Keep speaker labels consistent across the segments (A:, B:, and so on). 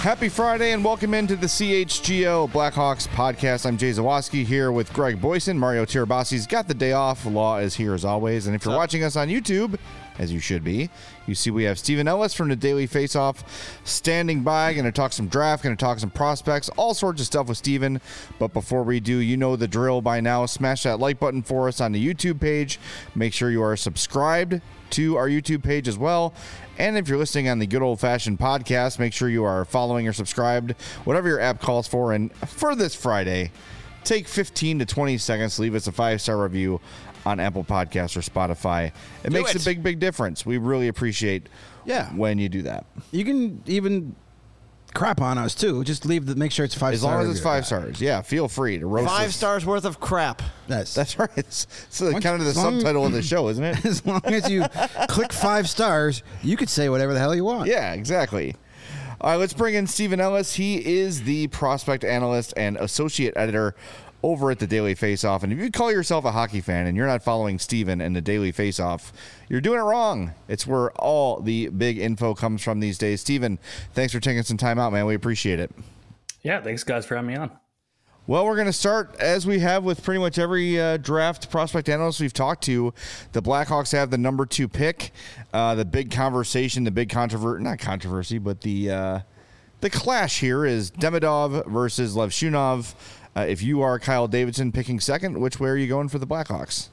A: Happy Friday and welcome into the CHGO Blackhawks podcast. I'm Jay Zawaski here with Greg Boyson. Mario Tirabasi's got the day off. Law is here as always. And if you're watching us on YouTube, as you should be, you see we have Stephen Ellis from the Daily Faceoff standing by. Going to talk some draft, going to talk some prospects, all sorts of stuff with Stephen. But before we do, you know the drill by now. Smash that like button for us on the YouTube page. Make sure you are subscribed to our YouTube page as well. And if you're listening on the good old-fashioned podcast, make sure you are following or subscribed, whatever your app calls for. And for this Friday, take 15 to 20 seconds to leave us a 5-star review on Apple Podcasts or Spotify. It makes a big, big difference. We really appreciate when you do that.
B: You can even crap on us, too. Just make sure it's 5 stars.
A: As long as it's 5 stars. Yeah, feel free to roast
C: 5
A: us.
C: stars worth of crap.
A: That's right. It's kind of the subtitle of the show, isn't it?
B: As long as you click 5 stars, you could say whatever the hell you want.
A: Yeah, exactly. All right, let's bring in Stephen Ellis. He is the prospect analyst and associate editor over at the Daily Faceoff. And if you call yourself a hockey fan and you're not following Stephen and the Daily Faceoff, you're doing it wrong. It's where all the big info comes from these days. Stephen, thanks for taking some time out, man. We appreciate it.
D: Yeah, thanks, guys, for having me on.
A: Well, we're going to start, as we have with pretty much every draft prospect analyst we've talked to. The Blackhawks have the number 2 pick. The big conversation, the big not controversy, but the clash here is Demidov versus Levshunov. If you are Kyle Davidson picking second, which way are you going for the Blackhawks?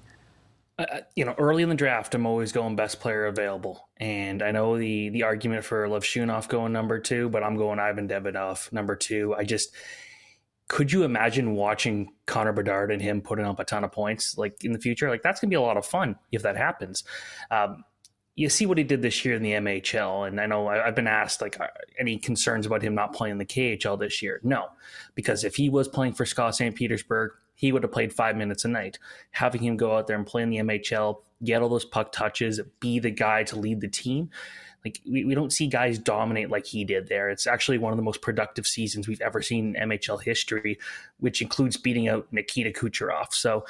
D: Early in the draft, I'm always going best player available. And I know the argument for Levshunov going number 2, but I'm going Ivan Demidov number 2. Could you imagine watching Connor Bedard and him putting up a ton of points like in the future? Like, that's going to be a lot of fun if that happens. You see what he did this year in the MHL, and I know I've been asked, any concerns about him not playing the KHL this year? No, because if he was playing for Scott St. Petersburg, he would have played 5 minutes a night. Having him go out there and play in the MHL, get all those puck touches, be the guy to lead the team, we don't see guys dominate like he did there. It's actually one of the most productive seasons we've ever seen in MHL history, which includes beating out Nikita Kucherov. So,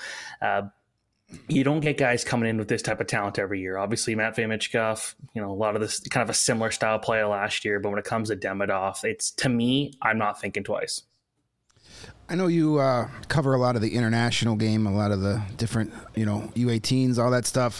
D: you don't get guys coming in with this type of talent every year. Obviously, Matvei Michkov, a lot of this kind of a similar style player last year. But when it comes to Demidov, to me, I'm not thinking twice.
B: I know you cover a lot of the international game, a lot of the different, U18s, all that stuff.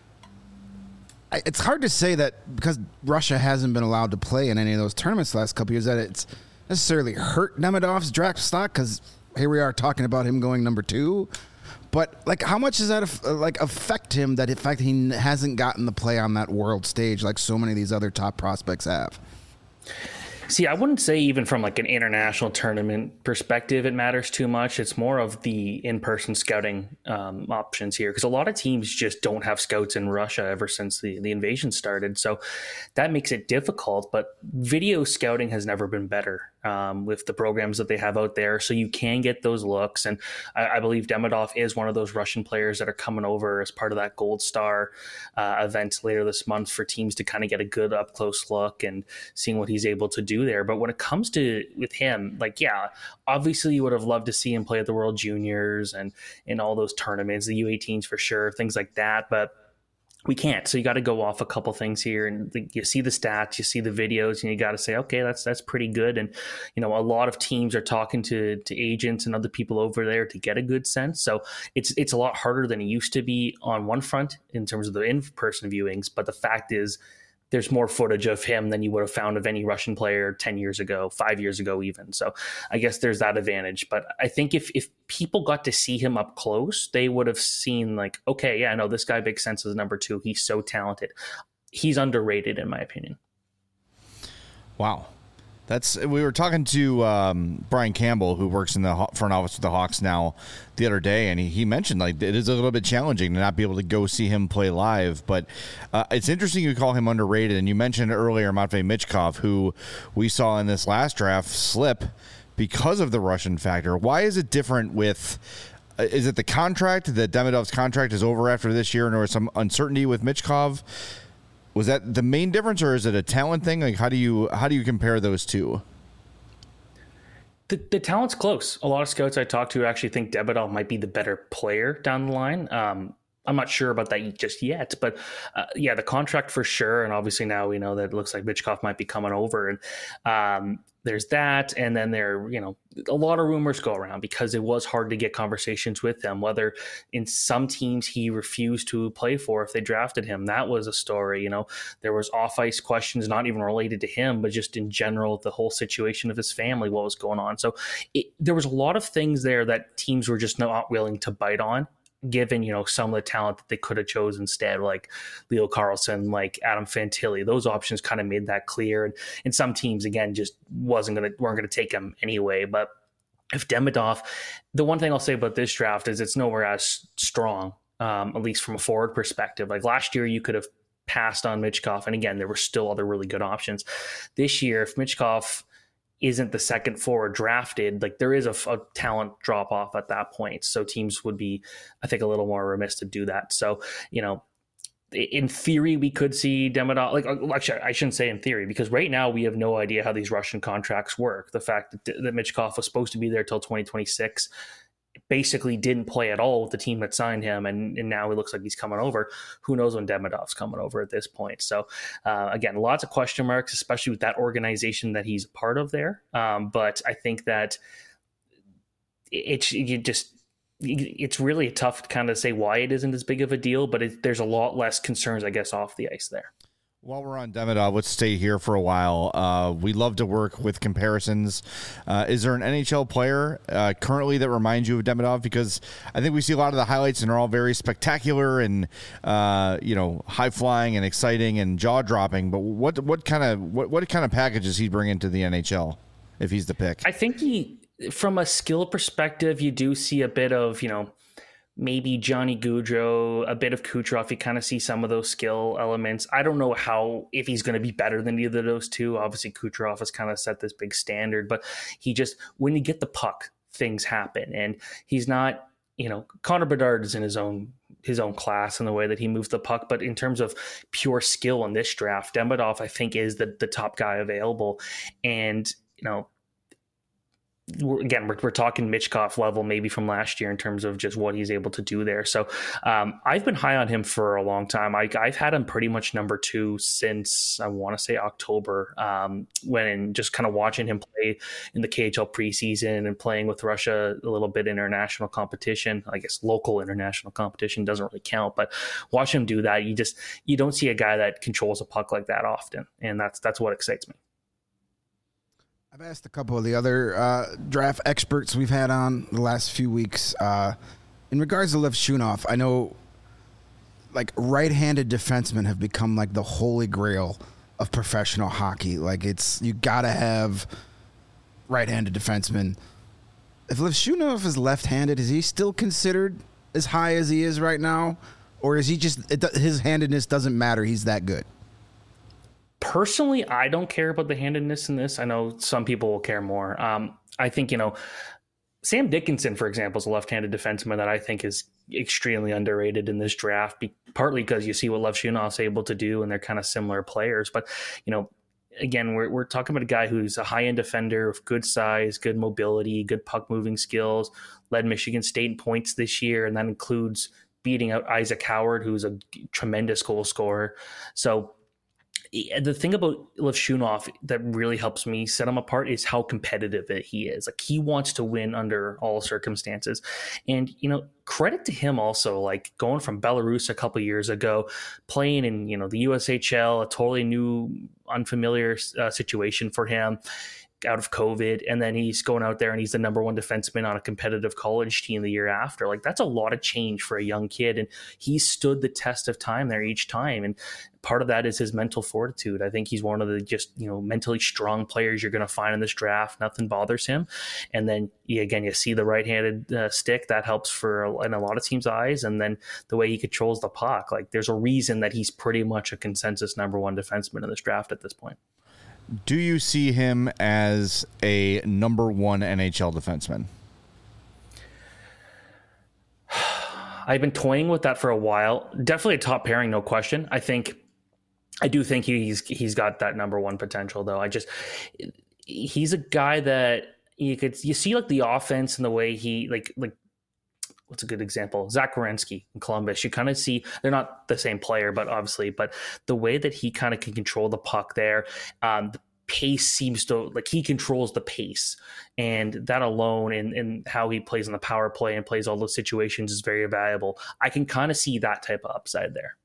B: It's hard to say that because Russia hasn't been allowed to play in any of those tournaments the last couple of years that it's necessarily hurt Demidov's draft stock, because here we are talking about him going number 2. But how much does that affect him? That in fact he hasn't gotten the play on that world stage like so many of these other top prospects have.
D: See, I wouldn't say even from an international tournament perspective, it matters too much. It's more of the in-person scouting options here, because a lot of teams just don't have scouts in Russia ever since the invasion started. So that makes it difficult. But video scouting has never been better with the programs that they have out there. So you can get those looks. And I believe Demidov is one of those Russian players that are coming over as part of that Gold Star event later this month for teams to kind of get a good up-close look and seeing what he's able to do there. But when it comes to with him, obviously you would have loved to see him play at the World Juniors and in all those tournaments, the U18s for sure, things like that. But we can't. So you got to go off a couple things here, and you see the stats, you see the videos, and you got to say, okay, that's pretty good. And a lot of teams are talking to agents and other people over there to get a good sense. So it's a lot harder than it used to be on one front in terms of the in-person viewings. But the fact is, there's more footage of him than you would have found of any Russian player 10 years ago, 5 years ago even. So I guess there's that advantage. But I think if people got to see him up close, they would have seen okay, yeah, no, this guy makes sense as number 2. He's so talented. He's underrated in my opinion.
A: Wow. We were talking to Brian Campbell, who works in the front office with the Hawks now, the other day, and he mentioned it is a little bit challenging to not be able to go see him play live. But it's interesting you call him underrated, and you mentioned earlier Matvei Michkov, who we saw in this last draft slip because of the Russian factor. Why is it different with? Is it the contract that Demidov's contract is over after this year, and there was some uncertainty with Michkov? Was that the main difference, or is it a talent thing? How do you compare those two?
D: The talent's close. A lot of scouts I talk to actually think Demidov might be the better player down the line. I'm not sure about that just yet, but the contract for sure. And obviously now we know that it looks like Michkov might be coming over, and there's that. And then a lot of rumors go around because it was hard to get conversations with him, whether in some teams he refused to play for if they drafted him. That was a story. There was off ice questions, not even related to him, but just in general, the whole situation of his family, what was going on. So there was a lot of things there that teams were just not willing to bite on, given, some of the talent that they could have chosen instead, like Leo Carlsson, like Adam Fantilli. Those options kind of made that clear. And some teams, again, just weren't going to take him anyway. But if Demidov, the one thing I'll say about this draft is it's nowhere as strong, at least from a forward perspective. Like last year, you could have passed on Michkov. And again, there were still other really good options. This year, if Michkov isn't the second forward drafted, like there is a talent drop off at that point. So teams would be, I think, a little more remiss to do that. So, in theory, we could see Demidov, actually, I shouldn't say in theory, because right now we have no idea how these Russian contracts work. The fact that Michkov was supposed to be there till 2026, basically didn't play at all with the team that signed him, and now it looks like he's coming over. Who knows when Demidov's coming over at this point? So again, lots of question marks, especially with that organization that he's a part of there. But I think that it's really tough to kind of say why it isn't as big of a deal, but there's a lot less concerns, I guess, off the ice there.
A: While we're on Demidov, let's stay here for a while. We love to work with comparisons. Is there an NHL player currently that reminds you of Demidov? Because I think we see a lot of the highlights and they're all very spectacular and high flying and exciting and jaw dropping. But what kind of package does he bring into the NHL if he's the pick?
D: I think from a skill perspective, you do see a bit of maybe Johnny Gaudreau, a bit of Kucherov. You kind of see some of those skill elements. I don't know if he's going to be better than either of those two. Obviously, Kucherov has kind of set this big standard, but when you get the puck, things happen. And he's not, Connor Bedard is in his own class in the way that he moves the puck. But in terms of pure skill in this draft, Demidov, I think, is the top guy available. And, we're talking Michkov level maybe from last year in terms of just what he's able to do there. So I've been high on him for a long time. I've had him pretty much number 2 since I want to say October, when just kind of watching him play in the KHL preseason and playing with Russia a little bit international competition. I guess local international competition doesn't really count, but watch him do that. You don't see a guy that controls a puck like that often, and that's what excites me.
B: I've asked a couple of the other draft experts we've had on the last few weeks. In regards to Lev Shunov, I know like right-handed defensemen have become like the holy grail of professional hockey. Like you gotta have right-handed defensemen. If Lev Shunov is left-handed, is he still considered as high as he is right now? Or is he his handedness doesn't matter, he's that good?
D: Personally, I don't care about the handedness in this. I know some people will care more. I think, Sam Dickinson, for example, is a left-handed defenseman that I think is extremely underrated in this draft, partly because you see what Lev Shunov's able to do, and they're kind of similar players. But, again, we're talking about a guy who's a high-end defender with good size, good mobility, good puck-moving skills, led Michigan State in points this year, and that includes beating out Isaac Howard, who's a tremendous goal scorer. So the thing about Lev Shunov that really helps me set him apart is how competitive he is. Like, he wants to win under all circumstances. And, credit to him also, like going from Belarus a couple of years ago, playing in, the USHL, a totally new, unfamiliar situation for him out of COVID. And then he's going out there and he's the number 1 defenseman on a competitive college team the year after. Like, that's a lot of change for a young kid. And he stood the test of time there each time. And part of that is his mental fortitude. I think he's one of the just, mentally strong players you're going to find in this draft. Nothing bothers him. And then you see the right-handed stick that helps in a lot of teams' eyes. And then the way he controls the puck, like there's a reason that he's pretty much a consensus number 1 defenseman in this draft at this point.
A: Do you see him as a number 1 NHL defenseman?
D: I've been toying with that for a while. Definitely a top pairing, no question. I do think he's got that number 1 potential, though. He's a guy that you see like the offense and the way he like what's a good example? Zach Werenski in Columbus. You kind of see they're not the same player, but the way that he kind of can control the puck there, the pace seems to like he controls the pace, and that alone and how he plays on the power play and plays all those situations is very valuable. I can kind of see that type of upside there.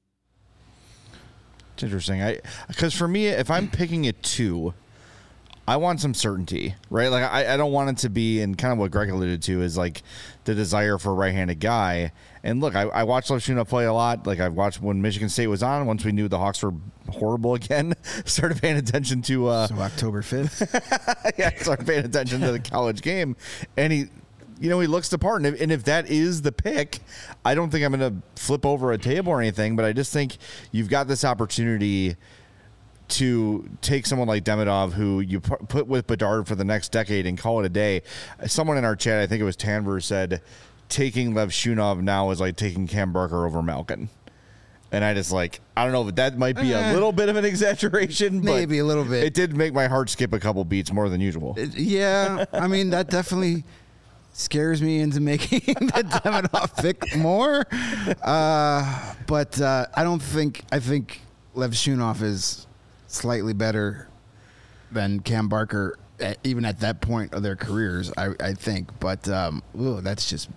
A: It's interesting. Because for me, if I'm picking a 2, I want some certainty, right? Like I don't want it to be, and kind of what Greg alluded to is like the desire for a right-handed guy. And look, I watched Levshunov play a lot. Like I've watched when Michigan State was on. Once we knew the Hawks were horrible again, started paying attention to.
B: So October 5th.
A: Yeah, started paying attention to the college game, and he looks the part. And if that is the pick, I don't think I'm going to flip over a table or anything. But I just think you've got this opportunity to take someone like Demidov, who you put with Bedard for the next decade and call it a day. Someone in our chat, I think it was Tanver, said taking Levshunov now is like taking Cam Barker over Malkin. And I just I don't know, but that might be a little bit of an exaggeration. But
B: maybe a little bit.
A: It did make my heart skip a couple beats more than usual.
B: Yeah, I mean, that definitely scares me into making the Demidov pick more. But I think Levshunov is slightly better than Cam Barker, even at that point of their careers, I think. But that's just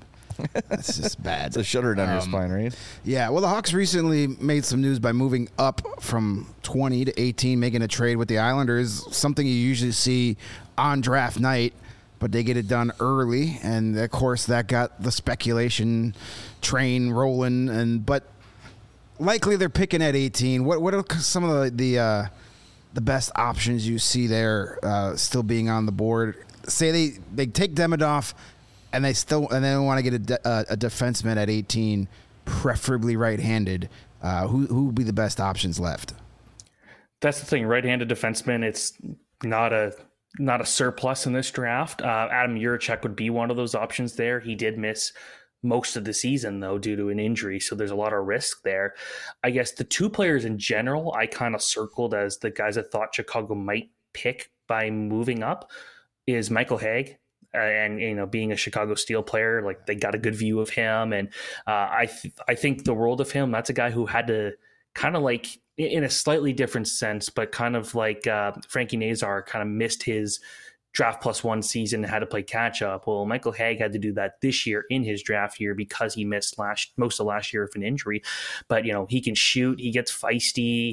B: bad.
A: It's a shudder down your spine, right?
B: Yeah. Well, the Hawks recently made some news by moving up from 20 to 18, making a trade with the Islanders, something you usually see on draft night, but they get it done early. And, of course, that got the speculation train rolling. But likely they're picking at 18. What are some of the best options you see there still being on the board? Say they take Demidov and they want to get a defenseman at 18, preferably right-handed. Who would be the best options left?
D: That's the thing. Right-handed defenseman, it's not a surplus in this draft. Adam Juracek would be one of those options there. He did miss most of the season, though, due to an injury, so there's a lot of risk there. I guess the 2 players in general I kind of circled as the guys I thought Chicago might pick by moving up is Michael Hague. And being a Chicago Steel player, like they got a good view of him, and I think the world of him. That's a guy who had to kind of like, in a slightly different sense, but kind of like Frankie Nazar kind of missed his draft plus 1 season and had to play catch up. Well, Michael Hague had to do that this year in his draft year because he missed most of last year with an injury. But he can shoot, he gets feisty,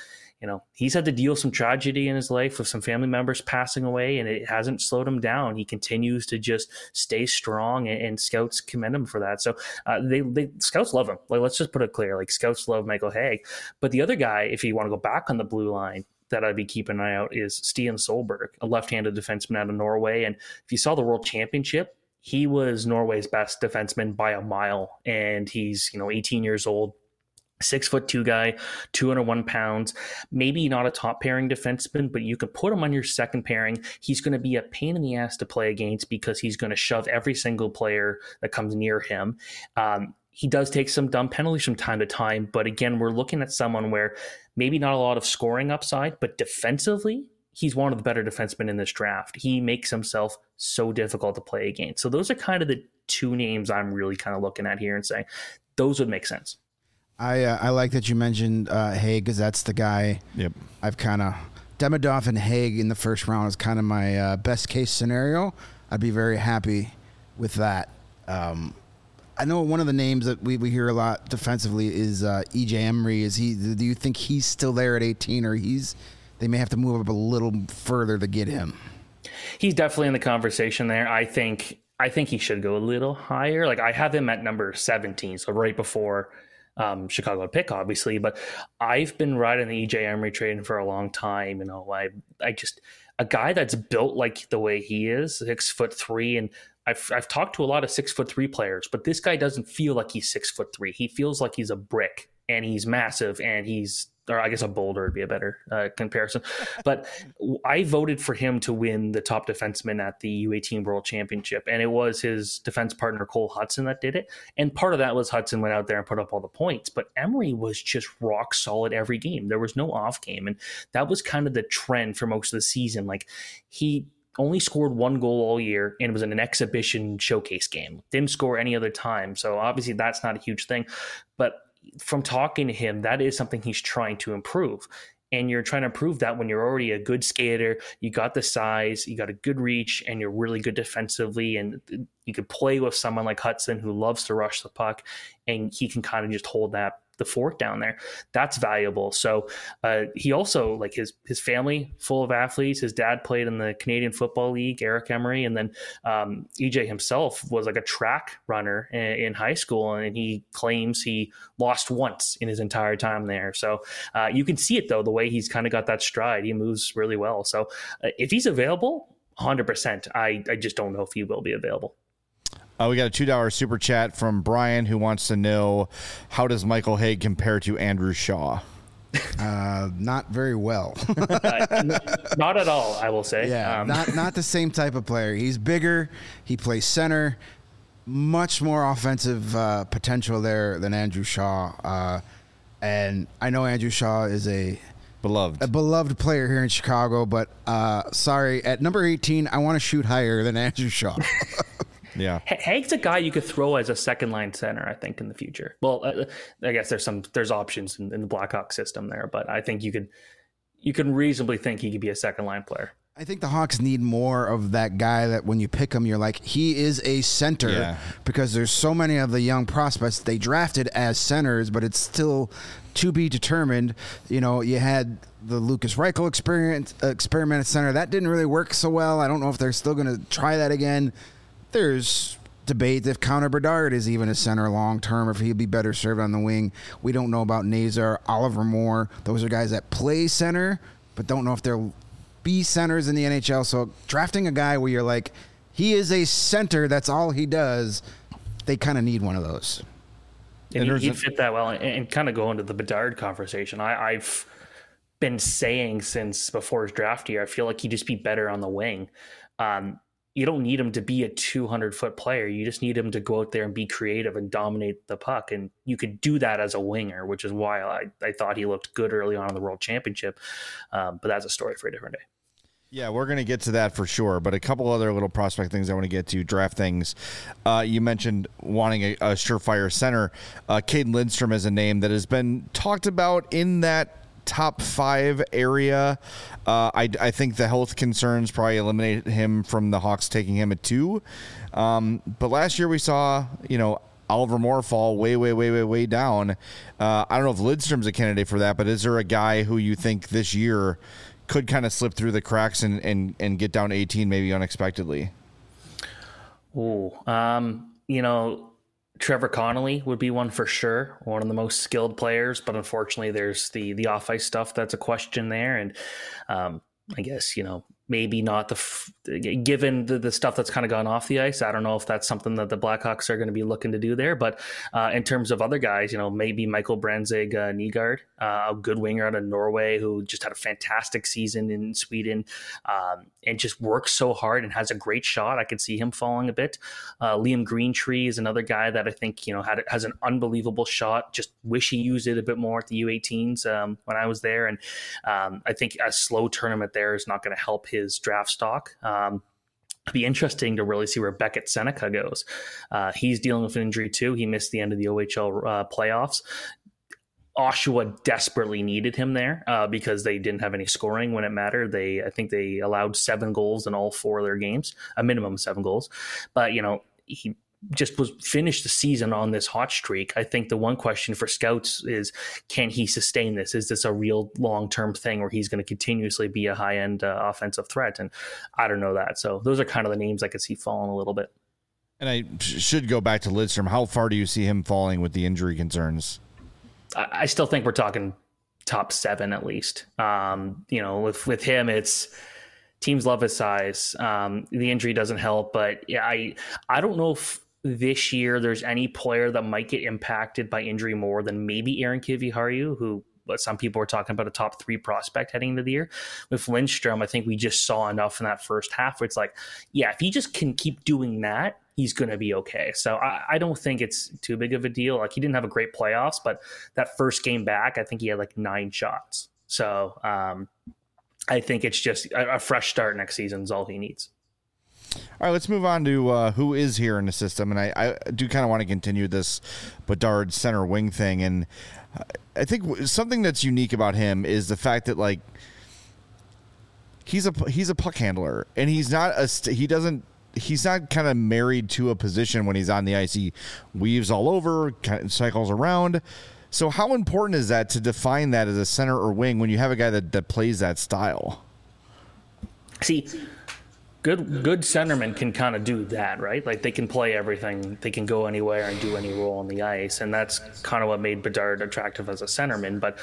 D: he's had to deal with some tragedy in his life with some family members passing away, and it hasn't slowed him down. He continues to just stay strong, and scouts commend him for that. So they scouts love him. Like, let's just put it clear. Like, scouts love Michael Hague. But the other guy, if you want to go back on the blue line, that I'd be keeping an eye out is Stian Solberg, a left-handed defenseman out of Norway. And if you saw the World Championship, he was Norway's best defenseman by a mile. And he's 18 years old. 6'2" guy, 201 pounds, maybe not a top pairing defenseman, but you can put him on your second pairing. He's going to be a pain in the ass to play against because he's going to shove every single player that comes near him. He does take some dumb penalties from time to time, but again, we're looking at someone where maybe not a lot of scoring upside, but defensively, he's one of the better defensemen in this draft. He makes himself so difficult to play against. So those are kind of the 2 names I'm really kind of looking at here and saying those would make sense.
B: I like that you mentioned Hague, because that's the guy.
A: Yep.
B: I've kind of Demidov and Hague in the first round is kind of my best case scenario. I'd be very happy with that. I know one of the names that we hear a lot defensively is EJ Emery. Do you think he's still there at 18, or they may have to move up a little further to get him?
D: He's definitely in the conversation there. I think he should go a little higher. Like, I have him at number 17, so right before Chicago pick, obviously, but I've been riding the EJ Emery train for a long time. I just, a guy that's built like the way he is, 6'3", and I've talked to a lot of 6'3" players, but this guy doesn't feel like he's 6'3". He feels like he's a brick, and he's massive, and or I guess a boulder would be a better comparison. But I voted for him to win the top defenseman at the U18 World Championship, and it was his defense partner Cole Hudson that did it. And part of that was Hudson went out there and put up all the points, but Emery was just rock solid every game. There was no off game, and that was kind of the trend for most of the season. Like, he only scored 1 goal all year, and it was in an exhibition showcase game. Didn't score any other time. So obviously that's not a huge thing. But from talking to him, that is something he's trying to improve. And you're trying to prove that when you're already a good skater, you got the size, you got a good reach, and you're really good defensively. And you could play with someone like Hudson who loves to rush the puck, and he can kind of just hold the fort down there. That's valuable. So he also, like his family full of athletes. His dad played in the Canadian Football League, Eric Emery, and then EJ himself was like a track runner in high school, and he claims he lost once in his entire time there. So you can see it though, the way he's kind of got that stride. He moves really well. So if he's available, 100%. I just don't know if he will be available.
A: We got a $2 super chat from Brian who wants to know, how does Michael Haig compare to Andrew Shaw?
B: Not very well.
D: Not at all, I will say.
B: Yeah, not the same type of player. He's bigger. He plays center. Much more offensive potential there than Andrew Shaw. And I know Andrew Shaw is a beloved player here in Chicago, but sorry, at number 18, I want to shoot higher than Andrew Shaw.
D: Yeah, Haig's a guy you could throw as a second line center, I think, in the future. Well, I guess there's options in the Blackhawks system there, but I think you can reasonably think he could be a second line player.
B: I think the Hawks need more of that guy that when you pick him, you're like, he is a center, because there's so many of the young prospects they drafted as centers, but it's still to be determined. You know, you had the Lucas Reichel experiment at center. That didn't really work so well. I don't know if they're still going to try that again. There's debate if Connor Bedard is even a center long term, if he'd be better served on the wing. We don't know about Nazar, Oliver Moore. Those are guys that play center, but don't know if they'll be centers in the NHL. So drafting a guy where you're like, he is a center, that's all he does, they kind of need one of those.
D: And he'd fit that well. And kind of go into the Bedard conversation. I've been saying since before his draft year, I feel like he'd just be better on the wing. You don't need him to be a 200-foot player. You just need him to go out there and be creative and dominate the puck. And you could do that as a winger, which is why I thought he looked good early on in the World Championship. But that's a story for a different day.
A: Yeah, we're going to get to that for sure. But a couple other little prospect things I want to get to, draft things. You mentioned wanting a surefire center. Caden Lindstrom is a name that has been talked about in that top 5 area. I think the health concerns probably eliminated him from the Hawks taking him at 2. But last year we saw, Oliver Moore fall way down. I don't know if Lidstrom's a candidate for that, but is there a guy who you think this year could kind of slip through the cracks and get down to 18 maybe unexpectedly?
D: Trevor Connolly would be one for sure, one of the most skilled players, but unfortunately there's the off-ice stuff that's a question there. And I guess, maybe not given the stuff that's kind of gone off the ice. I don't know if that's something that the Blackhawks are going to be looking to do there. But in terms of other guys, maybe Michael Branzig Nygaard, a good winger out of Norway who just had a fantastic season in Sweden and just works so hard and has a great shot. I could see him falling a bit. Liam Greentree is another guy that I think, has an unbelievable shot. Just wish he used it a bit more at the U18s when I was there. And I think a slow tournament there is not going to help his draft stock. It'd be interesting to really see where Beckett Seneca goes. He's dealing with an injury too. He missed the end of the OHL playoffs. Oshawa desperately needed him there because they didn't have any scoring when it mattered. I think they allowed 7 goals in all 4 of their games, a minimum of 7 goals. But, he just finished the season on this hot streak. I think the one question for scouts is, can he sustain this? Is this a real long-term thing where he's going to continuously be a high-end offensive threat? And I don't know that. So those are kind of the names I could see falling a little bit.
A: And I should go back to Lidstrom. How far do you see him falling with the injury concerns?
D: I still think we're talking top 7 at least. With him, it's teams love his size. The injury doesn't help, but yeah, I don't know if this year there's any player that might get impacted by injury more than maybe Aaron Kiviharju, who some people are talking about a top 3 prospect heading into the year. With Lindstrom, I think we just saw enough in that first half where it's like, yeah, if he just can keep doing that, he's going to be okay. So I don't think it's too big of a deal. Like, he didn't have a great playoffs, but that first game back, I think he had like 9 shots. So I think it's just a fresh start next season is all he needs.
A: All right, let's move on to who is here in the system. And I do kind of want to continue this Bedard center wing thing. And I think something that's unique about him is the fact that, like, he's a puck handler, and he's not kind of married to a position when he's on the ice. He weaves all over, kind of cycles around. So how important is that to define that as a center or wing when you have a guy that plays that style?
D: See, good centermen can kind of do that, right? Like, they can play everything. They can go anywhere and do any role on the ice. And that's kind of what made Bedard attractive as a centerman. But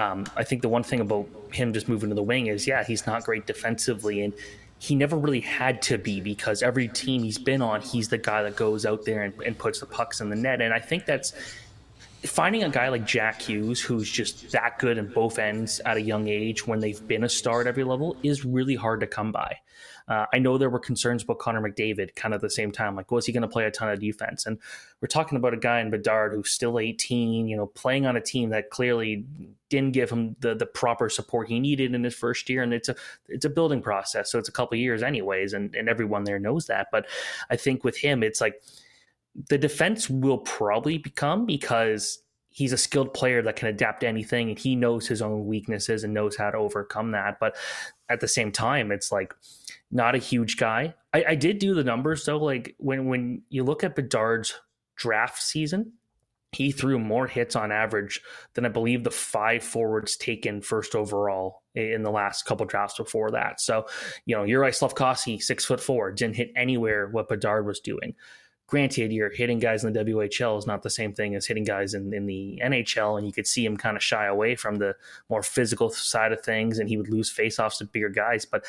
D: I think the one thing about him just moving to the wing is, he's not great defensively. And he never really had to be, because every team he's been on, he's the guy that goes out there and puts the pucks in the net. And I think that's finding a guy like Jack Hughes, who's just that good in both ends at a young age when they've been a star at every level, is really hard to come by. I know there were concerns about Connor McDavid kind of at the same time. Like, was he going to play a ton of defense? And we're talking about a guy in Bedard who's still 18, playing on a team that clearly didn't give him the proper support he needed in his first year. And it's a building process. So it's a couple of years anyways. And everyone there knows that. But I think with him, it's like the defense will probably become, because he's a skilled player that can adapt to anything, and he knows his own weaknesses and knows how to overcome that. But at the same time, it's like, not a huge guy. I did do the numbers though. Like, when you look at Bedard's draft season, he threw more hits on average than I believe the 5 forwards taken first overall in the last couple drafts before that. So, Juraj Slafkovsky, 6'4", didn't hit anywhere what Bedard was doing. Granted, you're hitting guys in the WHL is not the same thing as hitting guys in the NHL, and you could see him kind of shy away from the more physical side of things, and he would lose faceoffs to bigger guys. But,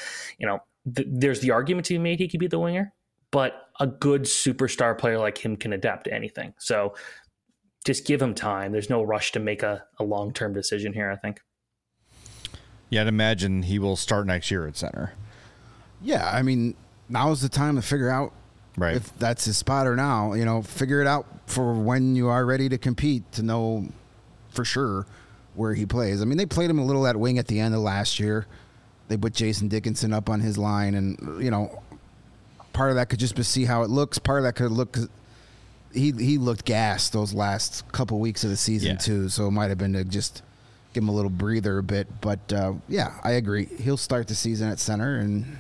D: there's the argument to be made he could be the winger, but a good superstar player like him can adapt to anything. So just give him time. There's no rush to make a long-term decision here, I think.
A: Yeah, I'd imagine he will start next year at center.
B: Yeah, I mean, now is the time to figure out if that's his spot or now. Figure it out for when you are ready to compete, to know for sure where he plays. I mean, they played him a little at wing at the end of last year. They put Jason Dickinson up on his line, and, part of that could just be see how it looks. Part of that could look, he looked gassed those last couple weeks of the season too, so it might have been to just give him a little breather a bit. But, I agree. He'll start the season at center, and,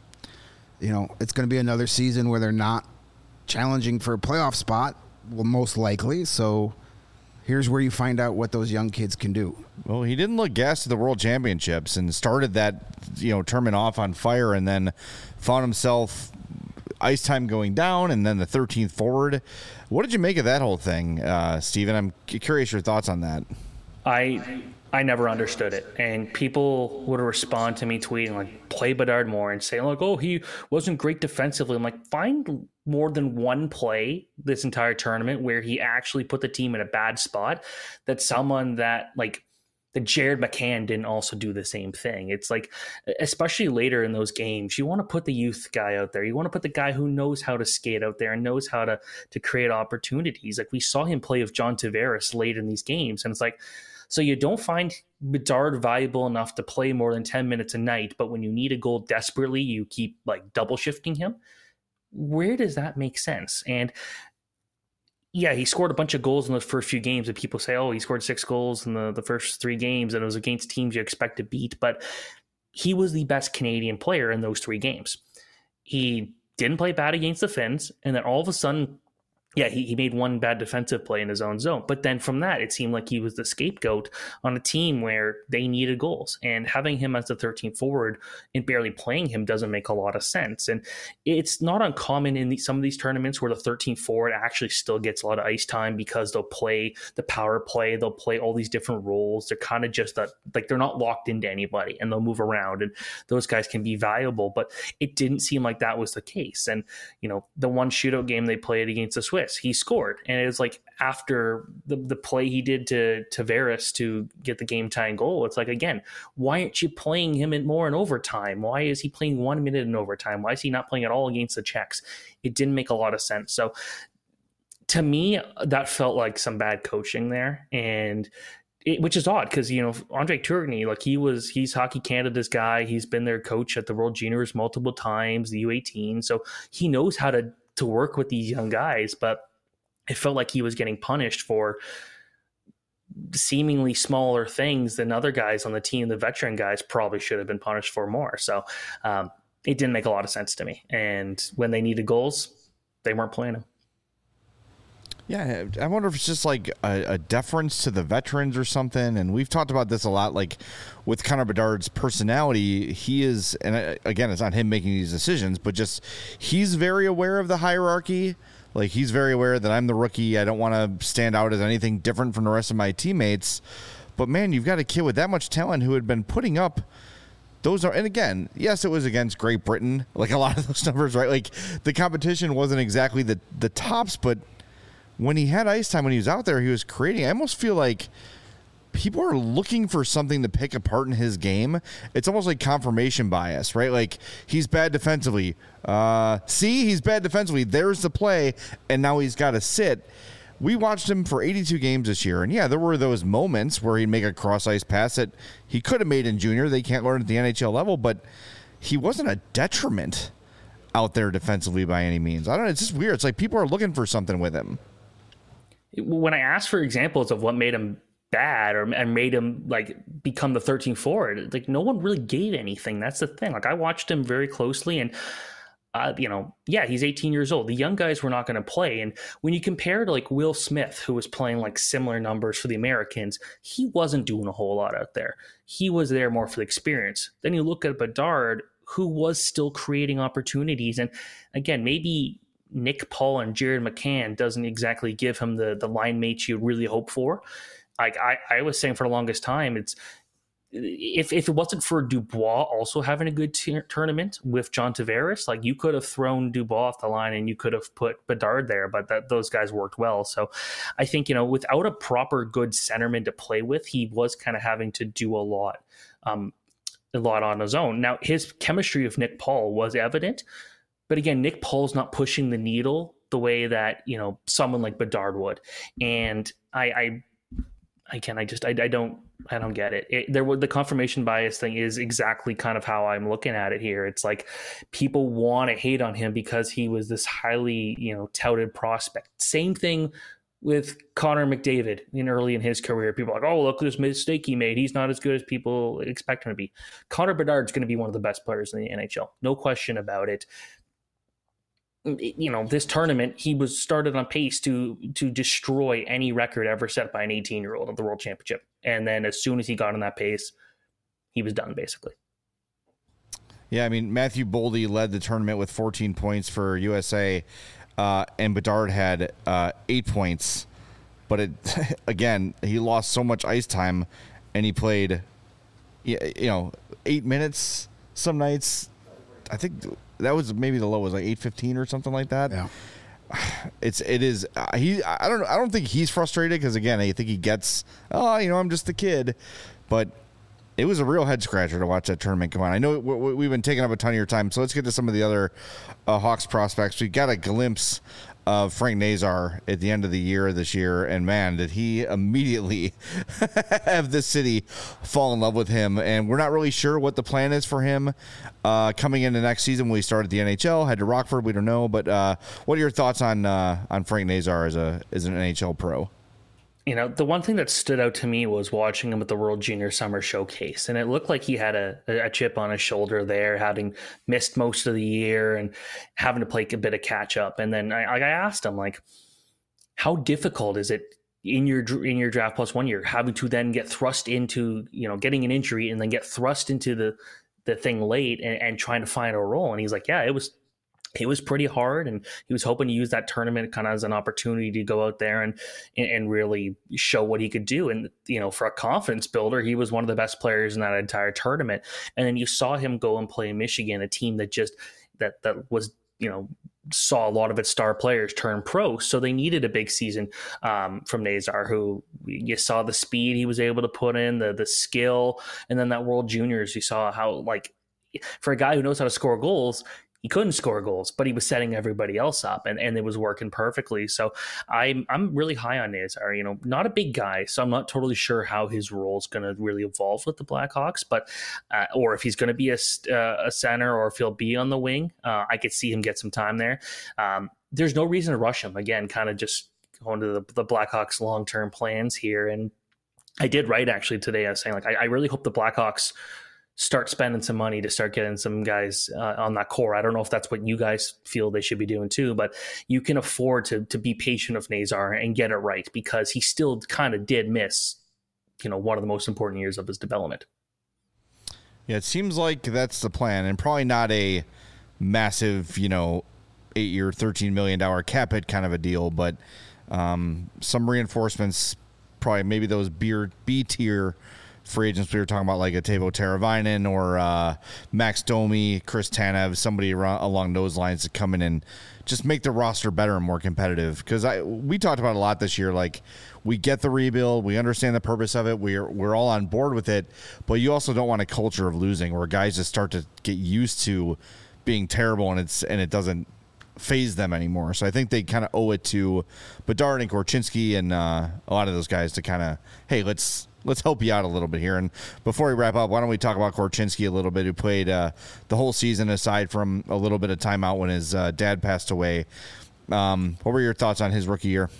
B: it's going to be another season where they're not challenging for a playoff spot, well, most likely, so here's where you find out what those young kids can do.
A: Well, he didn't look gassed at the World Championships and started that, tournament off on fire, and then found himself ice time going down, and then the 13th forward. What did you make of that whole thing, Steven? I'm curious your thoughts on that.
D: I never understood it, and people would respond to me tweeting like, play Bedard more, and say like, oh, he wasn't great defensively. I'm like, find more than one play this entire tournament where he actually put the team in a bad spot, that someone that like that Jared McCann didn't also do the same thing. It's like, especially later in those games, you want to put the youth guy out there. You want to put the guy who knows how to skate out there and knows how to create opportunities. Like, we saw him play with John Tavares late in these games, and it's like, so you don't find Bedard valuable enough to play more than 10 minutes a night, but when you need a goal desperately, you keep like double shifting him. Where does that make sense? And yeah, he scored a bunch of goals in those first few games, and people say, oh, he scored 6 goals in the first 3 games, and it was against teams you expect to beat. But he was the best Canadian player in those 3 games. He didn't play bad against the Finns, and then all of a sudden, yeah, he made one bad defensive play in his own zone. But then from that, it seemed like he was the scapegoat on a team where they needed goals. And having him as the 13th forward and barely playing him doesn't make a lot of sense. And it's not uncommon in some of these tournaments where the 13th forward actually still gets a lot of ice time, because they'll play the power play. They'll play all these different roles. They're kind of just like they're not locked into anybody, and they'll move around. And those guys can be valuable. But it didn't seem like that was the case. And, the one shootout game they played against the Swiss, he scored, and it was like after the play he did to Tavares to get the game tying goal. It's like, again, why aren't you playing him more in overtime? Why is he playing 1 minute in overtime? Why is he not playing at all against the Czechs? It didn't make a lot of sense. So to me, that felt like some bad coaching there, and which is odd because, Andre Tourigny, like he's Hockey Canada's guy. He's been their coach at the World Juniors multiple times, the U18. So he knows how to work with these young guys, but it felt like he was getting punished for seemingly smaller things than other guys on the team. The veteran guys probably should have been punished for more. So it didn't make a lot of sense to me. And when they needed goals, they weren't playing him.
A: Yeah, I wonder if it's just like a deference to the veterans or something. And we've talked about this a lot, like with Connor Bedard's personality. He is, and again, it's not him making these decisions, but just he's very aware of the hierarchy. Like he's very aware that I'm the rookie. I don't want to stand out as anything different from the rest of my teammates. But man, you've got a kid with that much talent who had been putting up those are, and again, yes, it was against Great Britain, like a lot of those numbers, right? Like the competition wasn't exactly the tops, but when he had ice time, when he was out there, he was creating. I almost feel like people are looking for something to pick apart in his game. It's almost like confirmation bias, right? Like he's bad defensively. He's bad defensively. There's the play, and now he's got to sit. We watched him for 82 games this year, and yeah, there were those moments where he'd make a cross-ice pass that he could have made in junior. They can't learn at the NHL level, but he wasn't a detriment out there defensively by any means. I don't know. It's just weird. It's like people are looking for something with him.
D: When I asked for examples of what made him bad and made him like become the 13th forward, like no one really gave anything. That's the thing. Like I watched him very closely, and he's 18 years old. The young guys were not going to play. And when you compare to like Will Smith, who was playing like similar numbers for the Americans, he wasn't doing a whole lot out there. He was there more for the experience. Then you look at Bedard, who was still creating opportunities. And again, maybe Nick Paul and Jared McCann doesn't exactly give him the line mates you really hope for. Like I was saying for the longest time, it's if it wasn't for Dubois also having a good tournament with John Tavares, like you could have thrown Dubois off the line and you could have put Bedard there, but those guys worked well. So I think, without a proper good centerman to play with, he was kind of having to do a lot on his own. Now his chemistry with Nick Paul was evident, but again, Nick Paul's not pushing the needle the way that, someone like Bedard would. And I don't get it. The confirmation bias thing is exactly kind of how I'm looking at it here. It's like people want to hate on him because he was this highly, touted prospect. Same thing with Connor McDavid early in his career. People are like, oh, look at this mistake he made. He's not as good as people expect him to be. Connor Bedard's going to be one of the best players in the NHL. No question about it. This tournament, he was started on pace to destroy any record ever set by an 18-year-old at the World Championship. And then as soon as he got on that pace, he was done, basically.
A: Yeah, I mean, Matthew Boldy led the tournament with 14 points for USA, and Bedard had 8 points. But again, he lost so much ice time, and he played, 8 minutes some nights. I think that was maybe the low was like 8:15 or something like that.
B: Yeah,
A: it is. I don't think he's frustrated because again, I think he gets. I'm just a kid, but it was a real head scratcher to watch that tournament come on. I know we've been taking up a ton of your time, so let's get to some of the other Hawks prospects. We got a glimpse of Frank Nazar at the end of the year this year, and man, did he immediately have the city fall in love with him. And we're not really sure what the plan is for him coming into next season when he started the NHL. Head to Rockford, we don't know. But what are your thoughts on Frank Nazar as an NHL pro?
D: The one thing that stood out to me was watching him at the World Junior Summer Showcase. And it looked like he had a chip on his shoulder there, having missed most of the year and having to play a bit of catch up. And then I asked him, like, how difficult is it in your draft plus 1 year, having to then get thrust into, getting an injury and then get thrust into the thing late and trying to find a role? And he's like, yeah, it was pretty hard, and he was hoping to use that tournament kind of as an opportunity to go out there and really show what he could do. And, for a confidence builder, he was one of the best players in that entire tournament. And then you saw him go and play in Michigan, a team that just, that was, saw a lot of its star players turn pro. So they needed a big season from Nazar, who you saw the speed he was able to put in, the skill. And then that World Juniors, you saw how, like, for a guy who knows how to score goals, he couldn't score goals, but he was setting everybody else up, and it was working perfectly. So I'm really high on Nazar. Not a big guy, so I'm not totally sure how his role is going to really evolve with the Blackhawks, but or if he's going to be a center or if he'll be on the wing. I could see him get some time there. There's no reason to rush him. Again, kind of just going to the Blackhawks' long-term plans here. And I did write actually today. I was saying, I really hope the Blackhawks start spending some money to start getting some guys on that core. I don't know if that's what you guys feel they should be doing too, but you can afford to be patient with Nazar and get it right, because he still kind of did miss, one of the most important years of his development.
A: Yeah, it seems like that's the plan, and probably not a massive, 8-year, $13 million cap hit kind of a deal, but some reinforcements, probably maybe those B-tier free agents we were talking about, like a Teuvo Teravainen or Max Domi, Chris Tanev, somebody along those lines to come in and just make the roster better and more competitive. Because we talked about a lot this year, like we get the rebuild, we understand the purpose of it, we're all on board with it, but you also don't want a culture of losing where guys just start to get used to being terrible and it doesn't phase them anymore. So I think they kind of owe it to Bedard and Korchinski and a lot of those guys to kind of, hey, let's help you out a little bit here. And before we wrap up, why don't we talk about Korchinski a little bit, who played the whole season aside from a little bit of time out when his dad passed away. What were your thoughts on his rookie year?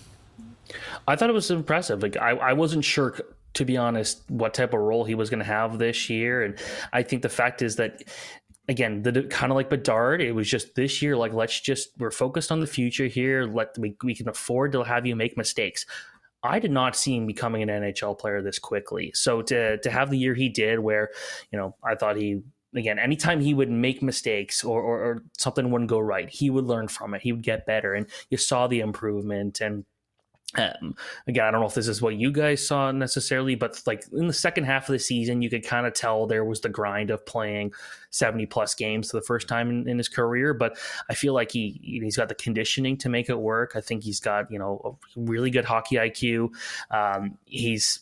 D: I thought it was impressive. I wasn't sure, to be honest, what type of role he was going to have this year. And I think the fact is that, again, kind of like Bedard, it was just this year, we're focused on the future here. We can afford to have you make mistakes. I did not see him becoming an NHL player this quickly. So to have the year he did, where, I thought again, anytime he would make mistakes or something wouldn't go right, he would learn from it. He would get better. And you saw the improvement. And again, I don't know if this is what you guys saw necessarily, but in the second half of the season, you could kind of tell there was the grind of playing 70 plus games for the first time in his career. But I feel like he's got the conditioning to make it work. I think he's got, a really good hockey IQ. He's